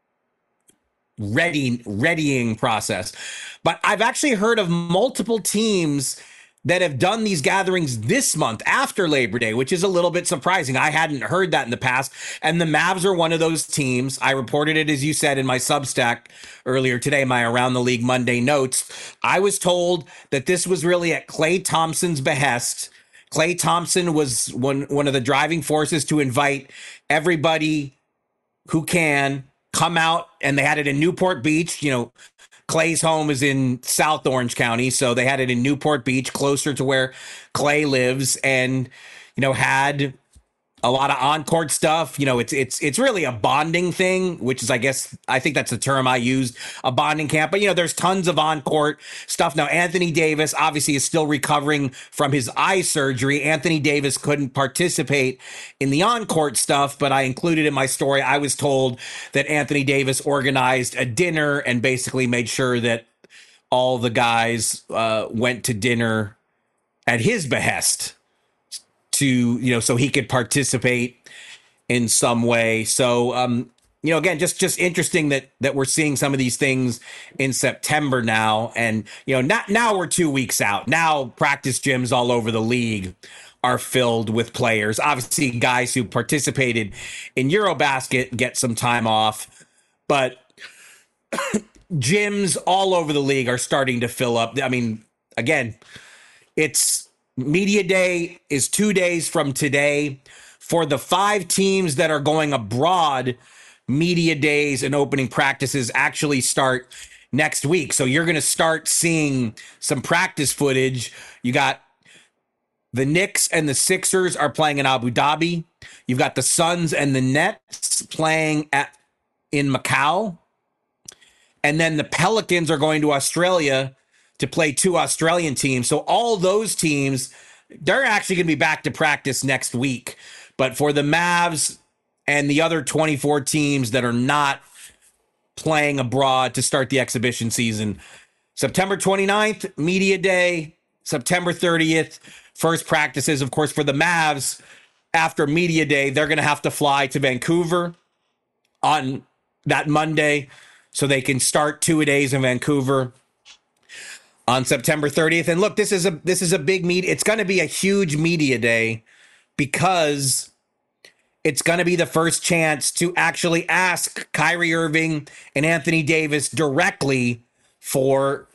readying process. But I've actually heard of multiple teams that have done these gatherings this month after Labor Day, which is a little bit surprising. I hadn't heard that in the past. And the Mavs are one of those teams. I reported it, as you said, in my Substack earlier today, my Around the League Monday notes. I was told that this was really at Klay Thompson's behest. Klay Thompson was one of the driving forces to invite everybody who can come out, and they had it in Newport Beach. Clay's home is in South Orange County, so they had it in Newport Beach, closer to where Clay lives, and had a lot of on-court stuff. It's really a bonding thing, which is, I think that's the term I used, a bonding camp. But there's tons of on-court stuff. Now, Anthony Davis obviously is still recovering from his eye surgery. Anthony Davis couldn't participate in the on-court stuff, but I included in my story, I was told that Anthony Davis organized a dinner and basically made sure that all the guys went to dinner at his behest to, so he could participate in some way. So, again, just interesting that we're seeing some of these things in September now. And, now we're 2 weeks out. Now practice gyms all over the league are filled with players. Obviously, guys who participated in Eurobasket get some time off. But gyms all over the league are starting to fill up. I mean, again, it's media day is 2 days from today. For the 5 teams that are going abroad, media days and opening practices actually start next week. So you're going to start seeing some practice footage. You got the Knicks and the Sixers are playing in Abu Dhabi. You've got the Suns and the Nets playing in Macau. And then the Pelicans are going to Australia to play 2 Australian teams. So all those teams, they're actually going to be back to practice next week. But for the Mavs and the other 24 teams that are not playing abroad to start the exhibition season, September 29th, media day, September 30th, first practices. Of course, for the Mavs, after media day, they're going to have to fly to Vancouver on that Monday so they can start 2 days in Vancouver on September 30th. And look, this is a big meet. It's going to be a huge media day because it's going to be the first chance to actually ask Kyrie Irving and Anthony Davis directly for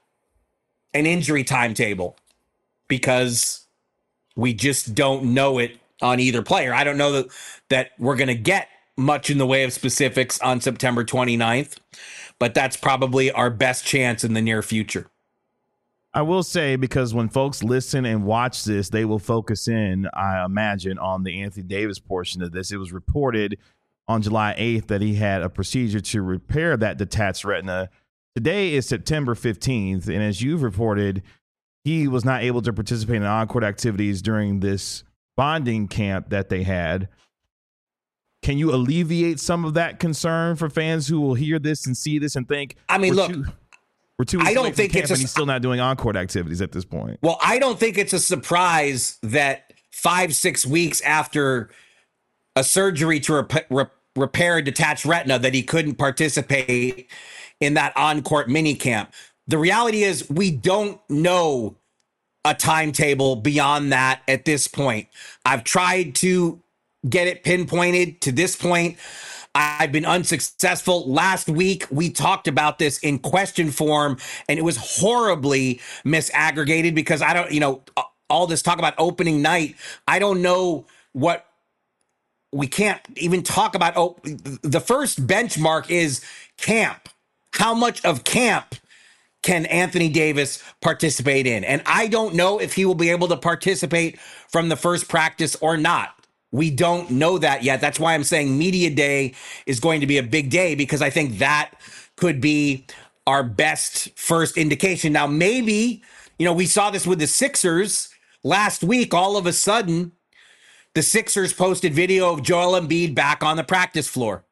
an injury timetable, because we just don't know it on either player. I don't know that we're going to get much in the way of specifics on September 29th, but that's probably our best chance in the near future. I will say, because when folks listen and watch this, they will focus in, I imagine, on the Anthony Davis portion of this. It was reported on July 8th that he had a procedure to repair that detached retina. Today is September 15th, and as you've reported, he was not able to participate in on-court activities during this bonding camp that they had. Can you alleviate some of that concern for fans who will hear this and see this and think, I mean, look, we're 2 weeks I don't away from think camp it's and he's still not doing on-court activities at this point? Well, I don't think it's a surprise that 5-6 weeks after a surgery to repair a detached retina that he couldn't participate in that on-court mini camp. The reality is we don't know a timetable beyond that at this point. I've tried to get it pinpointed to this point. I've been unsuccessful. Last week, we talked about this in question form, and it was horribly misaggregated because I don't, all this talk about opening night. I don't know what we can't even talk about. Oh, the first benchmark is camp. How much of camp can Anthony Davis participate in? And I don't know if he will be able to participate from the first practice or not. We don't know that yet. That's why I'm saying media day is going to be a big day, because I think that could be our best first indication. Now, maybe, we saw this with the Sixers last week. All of a sudden, the Sixers posted video of Joel Embiid back on the practice floor.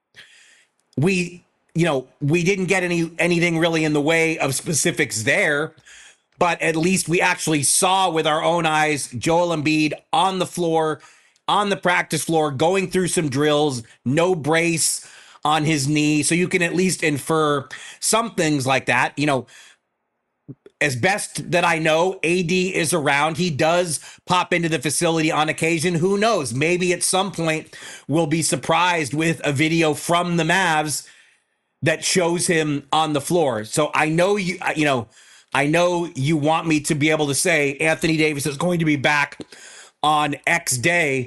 We didn't get anything really in the way of specifics there, but at least we actually saw with our own eyes Joel Embiid on the floor, on the practice floor, going through some drills, no brace on his knee. So you can at least infer some things like that. As best that I know, AD is around. He does pop into the facility on occasion. Who knows? Maybe at some point we'll be surprised with a video from the Mavs that shows him on the floor. So I know I know you want me to be able to say Anthony Davis is going to be back on X day.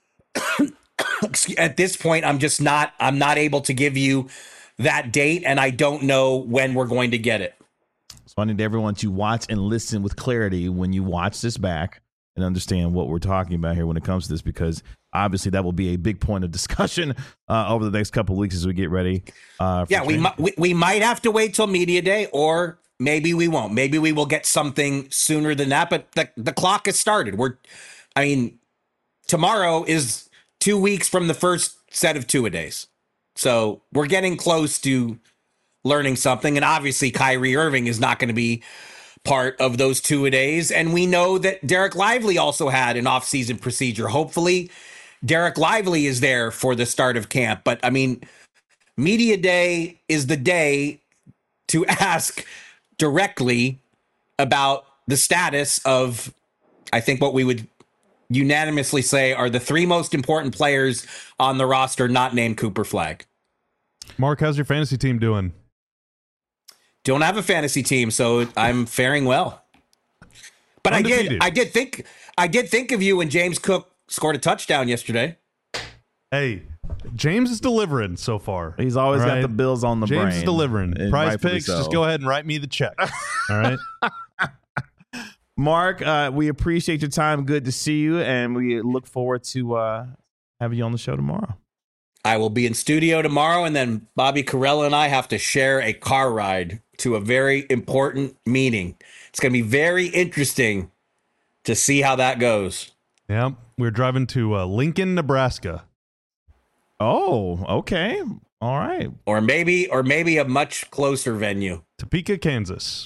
At this point, I'm not able to give you that date, and I don't know when we're going to get it. So I need everyone to watch and listen with clarity when you watch this back and understand what we're talking about here when it comes to this, because obviously that will be a big point of discussion over the next couple of weeks as we get ready. We might have to wait till media day, or maybe we won't. Maybe we will get something sooner than that, but the clock has started. Tomorrow is 2 weeks from the first set of 2-a-days. So we're getting close to learning something. And obviously Kyrie Irving is not going to be part of those 2-a-days. And we know that Derek Lively also had an off-season procedure. Hopefully Derek Lively is there for the start of camp. But media day is the day to ask directly about the status of, I think, what we would unanimously say are the 3 most important players on the roster not named Cooper Flagg. Mark, how's your fantasy team doing? Don't have a fantasy team, so I'm faring well. But Undefeated. I did think of you when James Cook scored a touchdown yesterday. Hey, James is delivering so far. He's always All got right? the Bills on the brain. James is delivering. and Prize rightfully Picks, so. just go ahead and write me the check. All right. Mark, we appreciate your time. Good to see you, and we look forward to having you on the show tomorrow. I will be in studio tomorrow, and then Bobby Carella and I have to share a car ride to a very important meeting. It's going to be very interesting to see how that goes. Yeah, we're driving to Lincoln, Nebraska. Oh, okay. All right. Or maybe a much closer venue. Topeka, Kansas.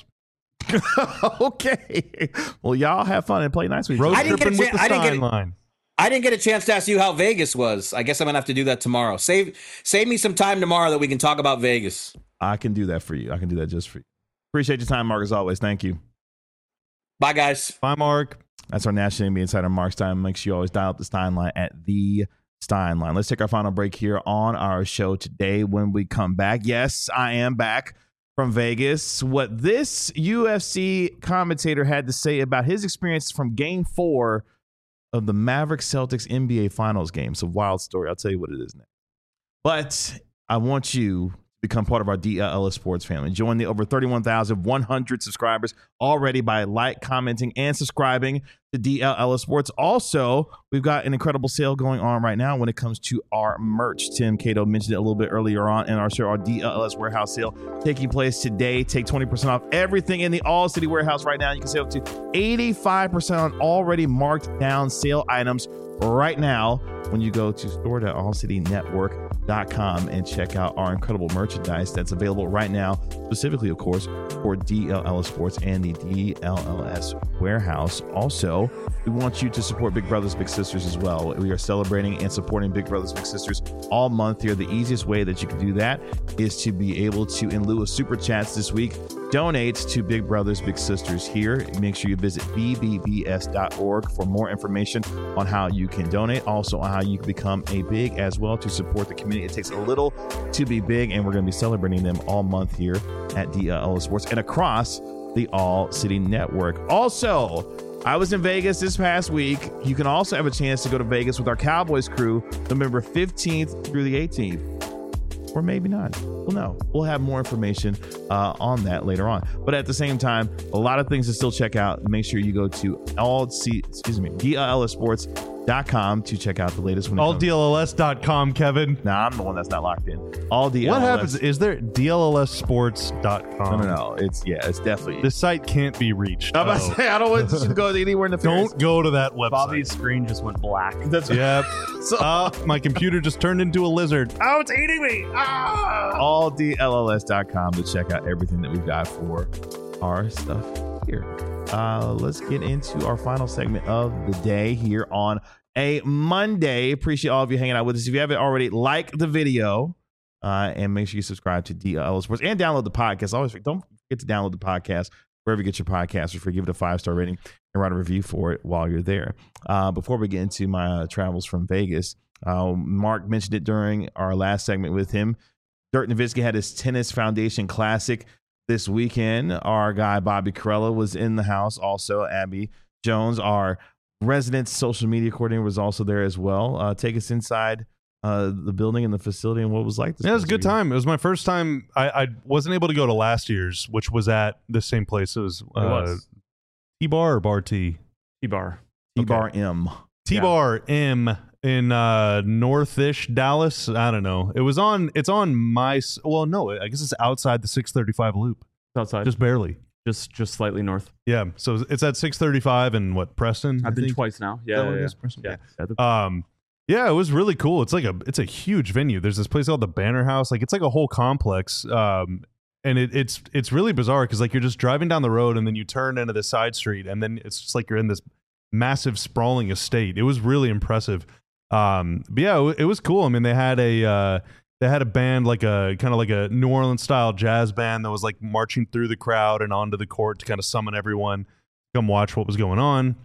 Okay. Well, y'all have fun and play nice with each Road other. I didn't get a tripping with chan- the I didn't get a- Steinline. I didn't get a chance to ask you how Vegas was. I guess I'm going to have to do that tomorrow. Save me some time tomorrow that we can talk about Vegas. I can do that for you. I can do that just for you. Appreciate your time, Mark, as always. Thank you. Bye, guys. Bye, Mark. That's our National NBA Insider, Mark Stein. Make sure you always dial up the Stein line at the Stein line. Let's take our final break here on our show today. When we come back, yes, I am back from Vegas. What this UFC commentator had to say about his experience from Game 4 of the Mavericks Celtics NBA Finals game. It's a wild story. I'll tell you what it is next. But I want you to become part of our DLLS Sports family. Join the over 31,100 subscribers already by commenting, and subscribing to DLLS Sports. Also, we've got an incredible sale going on right now when it comes to our merch. Tim Cato mentioned it a little bit earlier on in our show, our DLLS warehouse sale taking place today. Take 20% off everything in the All City warehouse right now. You can save up to 85% on already marked down sale items right now when you go to store.allcitynetwork.com and check out our incredible merchandise that's available right now, specifically, of course, for DLLS Sports and the DLLS warehouse. Also, we want you to support Big Brothers Big Sisters as well. We are celebrating and supporting Big Brothers Big Sisters all month here. The easiest way that you can do that is to be able to, in lieu of super chats this week, donate to Big Brothers Big Sisters here. Make sure you visit bbbs.org for more information on how you can donate, also on how you can become a big as well to support the community. It takes a little to be big, and we're going to be celebrating them all month here at DLLS Sports and across the All City Network. Also, I was in Vegas this past week. You can also have a chance to go to Vegas with our Cowboys crew November 15th through the 18th. Or maybe not. We'll know. We'll have more information on that later on. But at the same time, a lot of things to still check out. Make sure you go to DLLSsports.com to check out the latest one. AllDLLS.com, Kevin. Nah, I'm the one that's not locked in. All DLLS. What happens? Is there DLLSsports.com? No. It's definitely. The site can't be reached. I'm about to say, I don't want you to go anywhere in the Don't go to that website. Bobby's screen just went black. That's Yep. So, My computer just turned into a lizard. oh, it's eating me. AllDLLS.com to check out everything that we've got for our stuff here. Let's get into our final segment of the day here on a Monday. Appreciate all of you hanging out with us. If you haven't already, like the video and make sure you subscribe to DLLS Sports and download the podcast. Always don't forget to download the podcast wherever you get your podcasts. Or give it a 5-star rating and write a review for it while you're there. Before we get into my travels from Vegas, Mark mentioned it during our last segment with him. Dirk Nowitzki had his Tennis Foundation Classic this weekend. Our guy Bobby Carella was in the house. Also, Abby Jones, our resident social media coordinator, was also there as well. Take us inside the building and the facility and what it was like. Yeah, it was a good time. It was my first time. I wasn't able to go to last year's, which was at the same place. It was T-Bar or Bar T? T-Bar. T-Bar M. T-Bar M in northish Dallas. I don't know. It's on my, well, no, I guess it's outside the 635 loop. It's outside. Just barely. Just slightly north. Yeah. So it's at 635 and what, Preston? I've I been think? twice now. Is that what it is, Preston? Yeah. Yeah, it was really cool. It's a huge venue. There's this place called the Banner House. Like, it's like a whole complex. And it's really bizarre because like you're just driving down the road and then you turn into the side street and then it's just like you're in this massive sprawling estate. It was really impressive. But yeah, it was cool. I mean, they had a band, like a kind of like a New Orleans style jazz band that was like marching through the crowd and onto the court to kind of summon everyone to come watch what was going on.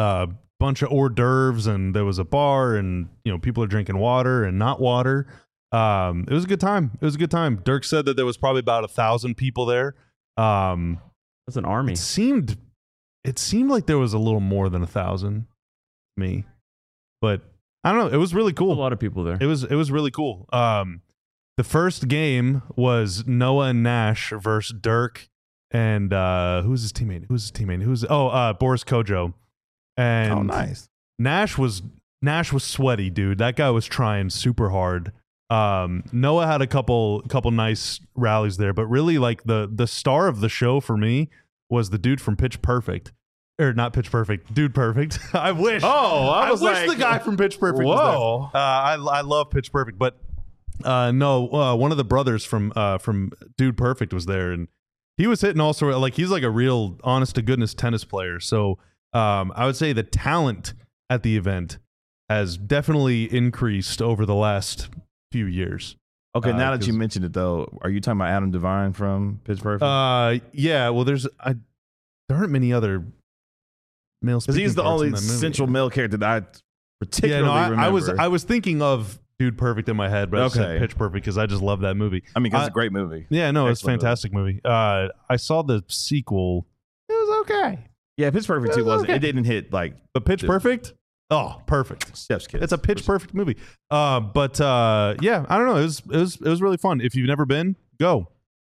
Bunch of hors d'oeuvres, and there was a bar, and people are drinking water and not water. It was a good time. It was a good time. Dirk said that there was probably about 1,000 people there. That's an army. It seemed like there was a little more than 1,000 to me, but I don't know. It was really cool. A lot of people there. It was really cool. The first game was Noah and Nash versus Dirk and who's his teammate? Boris Kojo. And nice. Nash was sweaty, dude. That guy was trying super hard. Noah had a couple nice rallies there, but really like the star of the show for me was the dude from Pitch Perfect. Or not Pitch Perfect, Dude Perfect. I wish. Oh, I wish the guy from Pitch Perfect was there. I love Pitch Perfect, but one of the brothers from Dude Perfect was there, and he was hitting all sort of, like, he's like a real honest to goodness tennis player. So I would say the talent at the event has definitely increased over the last few years. Okay, now that you mentioned it, though, are you talking about Adam Devine from Pitch Perfect? Yeah. Well, there aren't many other male speaking. Because he's the parts in only that movie. central male character that I particularly remember. I was thinking of Dude Perfect in my head, but I said Pitch Perfect because I just love that movie. I mean, it's a great movie. Yeah, no, it's a fantastic movie. I saw the sequel. It was okay. Yeah, Pitch Perfect 2 wasn't. Okay. It didn't hit like. But Pitch Perfect? Oh, perfect. Steps Kids. It's a Pitch Perfect movie. But yeah, I don't know. It was really fun. If you've never been, go.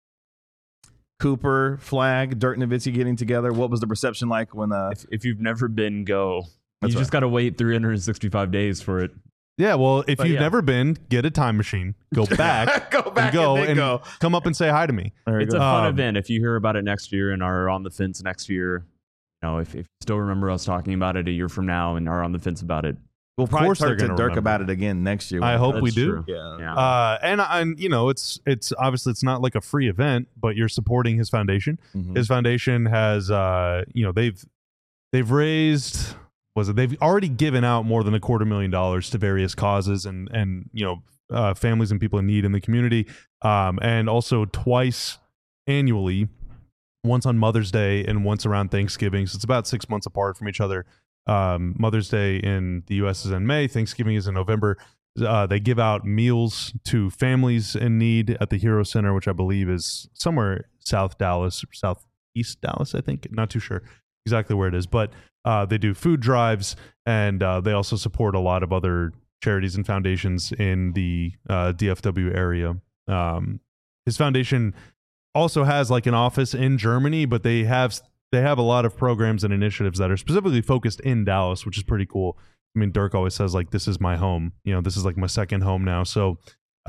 Cooper, Flag, Dirk Nowitzki getting together. What was the reception like when? If you've never been, go. That's you just got to wait 365 days for it. Yeah, well, if you've never been, get a time machine, go back, and come up and say hi to me. It's a fun event. If you hear about it next year and are on the fence next year, you know, if you still remember us talking about it a year from now and are on the fence about it, we'll probably talk to Dirk about it again next year. I hope we do. True. Yeah. And you know, it's obviously it's not like a free event, but you're supporting his foundation. Mm-hmm. His foundation has, they've raised. They've already given out more than $250,000 to various causes and families and people in need in the community, and also twice annually, once on Mother's Day and once around Thanksgiving. So it's about 6 months apart from each other. Mother's Day in the U.S. is in May. Thanksgiving is in November. They give out meals to families in need at the Hero Center, which I believe is somewhere southeast Dallas, I think. Not too sure exactly where it is, but they do food drives, and they also support a lot of other charities and foundations in the DFW area. His foundation also has like an office in Germany, but they have a lot of programs and initiatives that are specifically focused in Dallas, which is pretty cool. I mean, Dirk always says like, "This is my home. You know, this is like my second home now." So,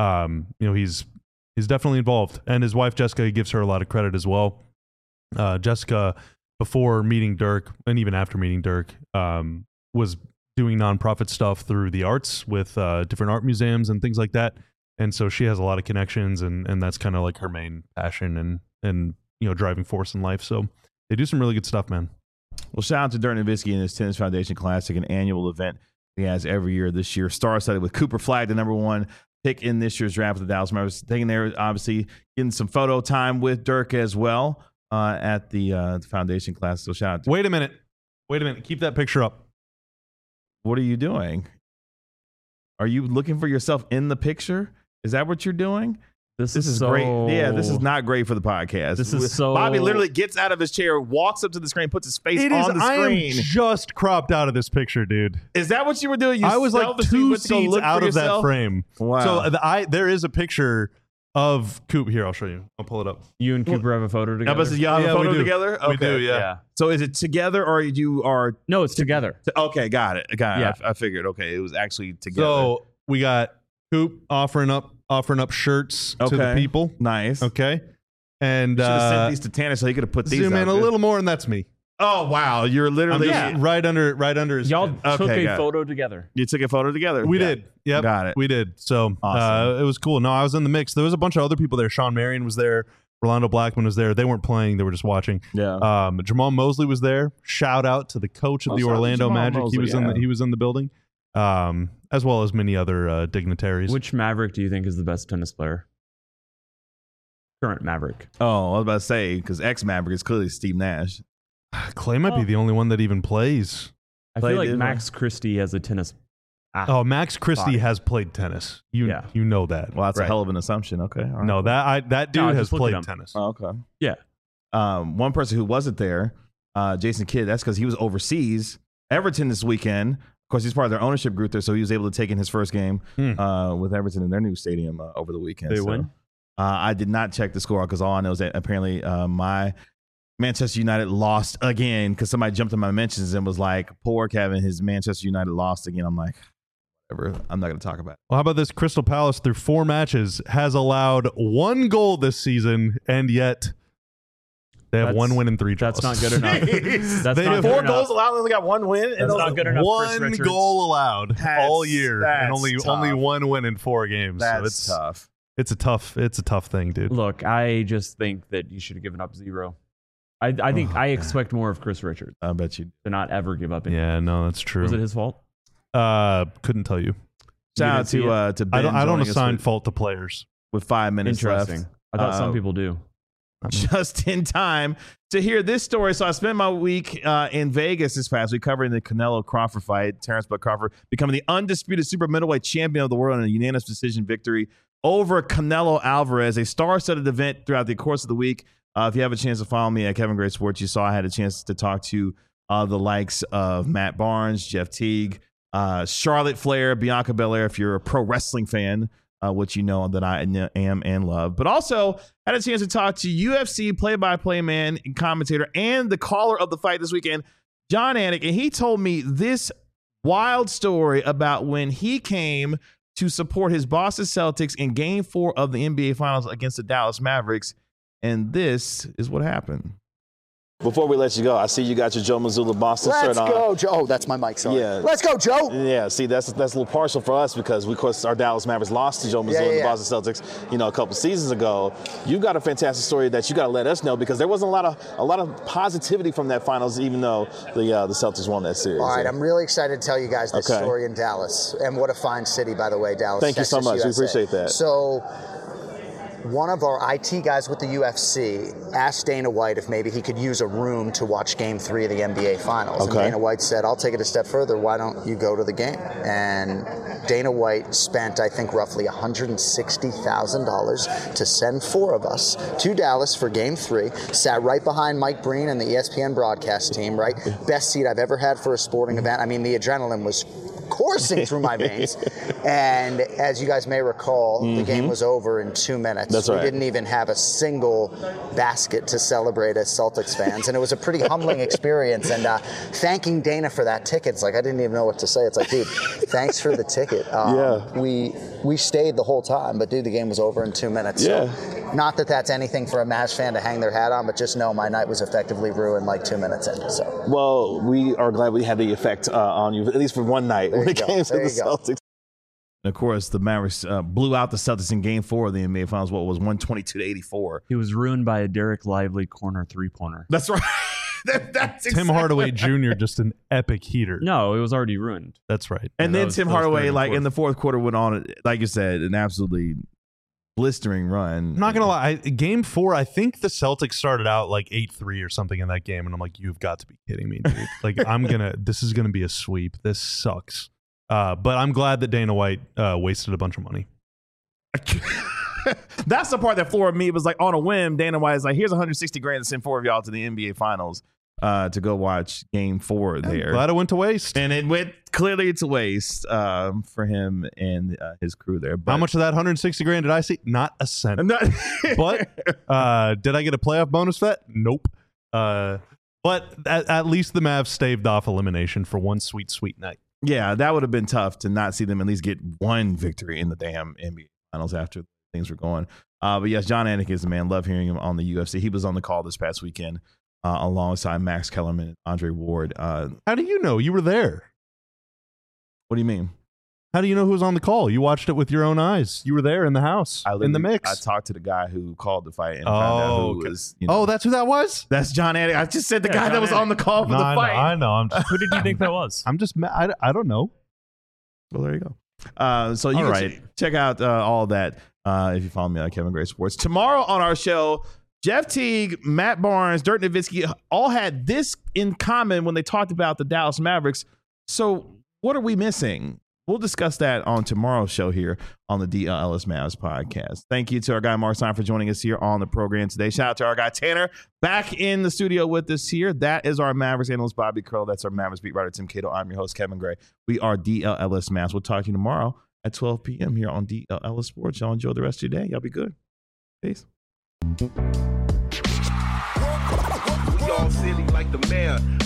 he's definitely involved, and his wife Jessica gives her a lot of credit as well. Jessica, before meeting Dirk and even after meeting Dirk, was doing nonprofit stuff through the arts with different art museums and things like that. And so she has a lot of connections, and that's kind of like her main passion and driving force in life. So they do some really good stuff, man. Well, shout out to Dirk Nowitzki and his Tennis Foundation Classic, an annual event he has every year. This year, star-studded with Cooper Flag, the #1 pick in this year's draft with the Dallas Mavericks. Taking there, obviously, getting some photo time with Dirk as well. At the Foundation class. So shout out to Wait a minute. Keep that picture up. What are you doing? Are you looking for yourself in the picture? Is that what you're doing? This is so great. Yeah, this is not great for the podcast. This is so... Bobby literally gets out of his chair, walks up to the screen, puts his face on the screen. I am just cropped out of this picture, dude. Is that what you were doing? I was like 2 seats out of that frame. Wow. So there is a picture of Coop here. I'll show you. I'll pull it up. You and Cooper have a photo together? Y'all have a photo together? Okay. We do, yeah. So is it together or you are... No, it's together. Okay, got it. Yeah. I figured. Okay, it was actually together. So we got Coop offering up shirts to the people. Nice. Okay. And should have sent these to Tanner so he could have put these zoom in a little more, and that's me. Oh wow, you're literally right under his. Y'all took a photo together. You took a photo together. We did. Yep, got it. We did. So awesome. It was cool. No, I was in the mix. There was a bunch of other people there. Sean Marion was there. Rolando Blackman was there. They weren't playing. They were just watching. Yeah. Jamal Mosley was there. Shout out to the coach of the Orlando Magic. Mosley, he was in the building, as well as many other dignitaries. Which Maverick do you think is the best tennis player? Current Maverick. Oh, I was about to say because ex-Maverick is clearly Steve Nash. Clay might be the only one that even plays. I feel like Max Christie as a tennis Oh, Max Christie Fine. has played tennis. You know that. Well, that's Right. a hell of an assumption. Okay. All right. No, that dude I has just looked at played him. tennis. Oh, okay. Yeah. One person who wasn't there, Jason Kidd, that's because he was overseas. Everton this weekend. Of course, he's part of their ownership group there, so he was able to take in his first game with Everton in their new stadium over the weekend. They win? I did not check the score because all I know is that apparently my Manchester United lost again because somebody jumped in my mentions and was like, poor Kevin, his Manchester United lost again. I'm like, whatever. I'm not going to talk about it. Well, how about this? Crystal Palace, through 4 matches, has allowed 1 goal this season, and yet they have 1 win and 3 draws. That's not good enough. That's They not have good 4 enough. goals allowed, only got 1 win. That's not good enough. Chris 1 Richards. goal allowed all That's- year, and only that's 1 win in 4 games. That's so it's tough. It's a tough thing, dude. Look, I just think that you should have given up 0. I think I expect more of Chris Richards I bet you. to not ever give up. Anything. Yeah, no, that's true. Was it his fault? Couldn't tell you. Shout out didn't see to Ben. I don't joining us assign fault to players. with 5 minutes left. Interesting. I thought some people do. Just in time to hear this story. So I spent my week in Vegas this past week covering the Canelo Crawford fight. Terrence Bud Crawford becoming the undisputed super middleweight champion of the world in a unanimous decision victory over Canelo Alvarez, a star-studded event throughout the course of the week. If you have a chance to follow me at Kevin Gray Sports, you saw I had a chance to talk to the likes of Matt Barnes, Jeff Teague, Charlotte Flair, Bianca Belair, if you're a pro wrestling fan, which you know that I am and love. But also had a chance to talk to UFC play-by-play man and commentator and the caller of the fight this weekend, John Anik, and he told me this wild story about when he came to support his Boston Celtics in Game 4 of the NBA Finals against the Dallas Mavericks, and this is what happened. Before we let you go, I see you got your Joe Mazzulla Boston Let's shirt on. go, Joe. Oh, that's my mic, sorry. Yeah. Let's go, Joe. Yeah, see, that's a little partial for us because, of course, our Dallas Mavericks lost to Joe Mazzulla and the Boston Celtics, a couple seasons ago. You got a fantastic story that you got to let us know because there wasn't a lot of positivity from that finals, even though the Celtics won that series. All right, I'm really excited to tell you guys this story in Dallas. And what a fine city, by the way, Dallas. Thank Texas, you so much. USA. We appreciate that. So, one of our IT guys with the UFC asked Dana White if maybe he could use a room to watch Game 3 of the NBA Finals. Okay. And Dana White said, I'll take it a step further. Why don't you go to the game? And Dana White spent, I think, roughly $160,000 to send 4 of us to Dallas for Game 3. Sat right behind Mike Breen and the ESPN broadcast team, right? Best seat I've ever had for a sporting event. I mean, the adrenaline was coursing through my veins. And as you guys may recall, the game was over in 2 minutes. That's right. We didn't even have a single basket to celebrate as Celtics fans. And it was a pretty humbling experience. And thanking Dana for that ticket, it's like, I didn't even know what to say. It's like, dude, thanks for the ticket. We stayed the whole time, but dude, the game was over in 2 minutes. Yeah. So, not that that's anything for a Mavs fan to hang their hat on, but just know my night was effectively ruined like 2 minutes in. So. Well, we are glad we had the effect on you, at least for one night when it came to the Celtics. And of course, the Mavericks blew out the Celtics in Game 4 of the NBA Finals. What was 122-84? He was ruined by a Derek Lively corner 3-pointer. That's right. That's Tim exactly Hardaway Jr. just an epic heater. No, it was already ruined. That's right. And that then was- Tim that was Hardaway, third and like in fourth. the fourth quarter, went on, like you said, an absolutely blistering run. I'm not gonna lie. Game 4, I think the Celtics started out like 8-3 or something in that game, and I'm like, you've got to be kidding me, dude. Like, this is gonna be a sweep. This sucks. But I'm glad that Dana White wasted a bunch of money. That's the part that floored me. It was like on a whim, Dana White is like, here's $160,000 to send 4 of y'all to the NBA Finals to go watch Game 4 there. Glad it went to waste. And it went clearly to waste for him and his crew there. But How much of that $160,000 did I see? Not a cent. Not- But did I get a playoff bonus for that? Nope. But at least the Mavs staved off elimination for one sweet, sweet night. Yeah, that would have been tough to not see them at least get one victory in the damn NBA Finals after things were going. But yes, John Anik is the man. Love hearing him on the UFC. He was on the call this past weekend alongside Max Kellerman and Andre Ward. How do you know? You were there. What do you mean? How do you know who was on the call? You watched it with your own eyes. You were there in the house, in the mix. I talked to the guy who called the fight and found out who okay. was. Oh, that's who that was? That's John Anik. I just said the Yeah, guy John that was Anik. on the call for No, the I fight. know. I'm just, Who did you think that was? I'm just. I don't know. Well, there you go. So you All can right. check out all that if you follow me on Kevin Gray Sports. Tomorrow on our show, Jeff Teague, Matt Barnes, Dirk Nowitzki all had this in common when they talked about the Dallas Mavericks. So what are we missing? We'll discuss that on tomorrow's show here on the DLS Mavs podcast. Thank you to our guy Mark Stein for joining us here on the program today. Shout out to our guy Tanner back in the studio with us here. That is our Mavericks analyst Bobby Curl. That's our Mavericks beat writer Tim Cato. I'm your host Kevin Gray. We are DLS Mavs. We'll talk to you tomorrow at 12 p.m. here on DLS Sports. Y'all enjoy the rest of your day. Y'all be good. Peace. We all silly like the mayor.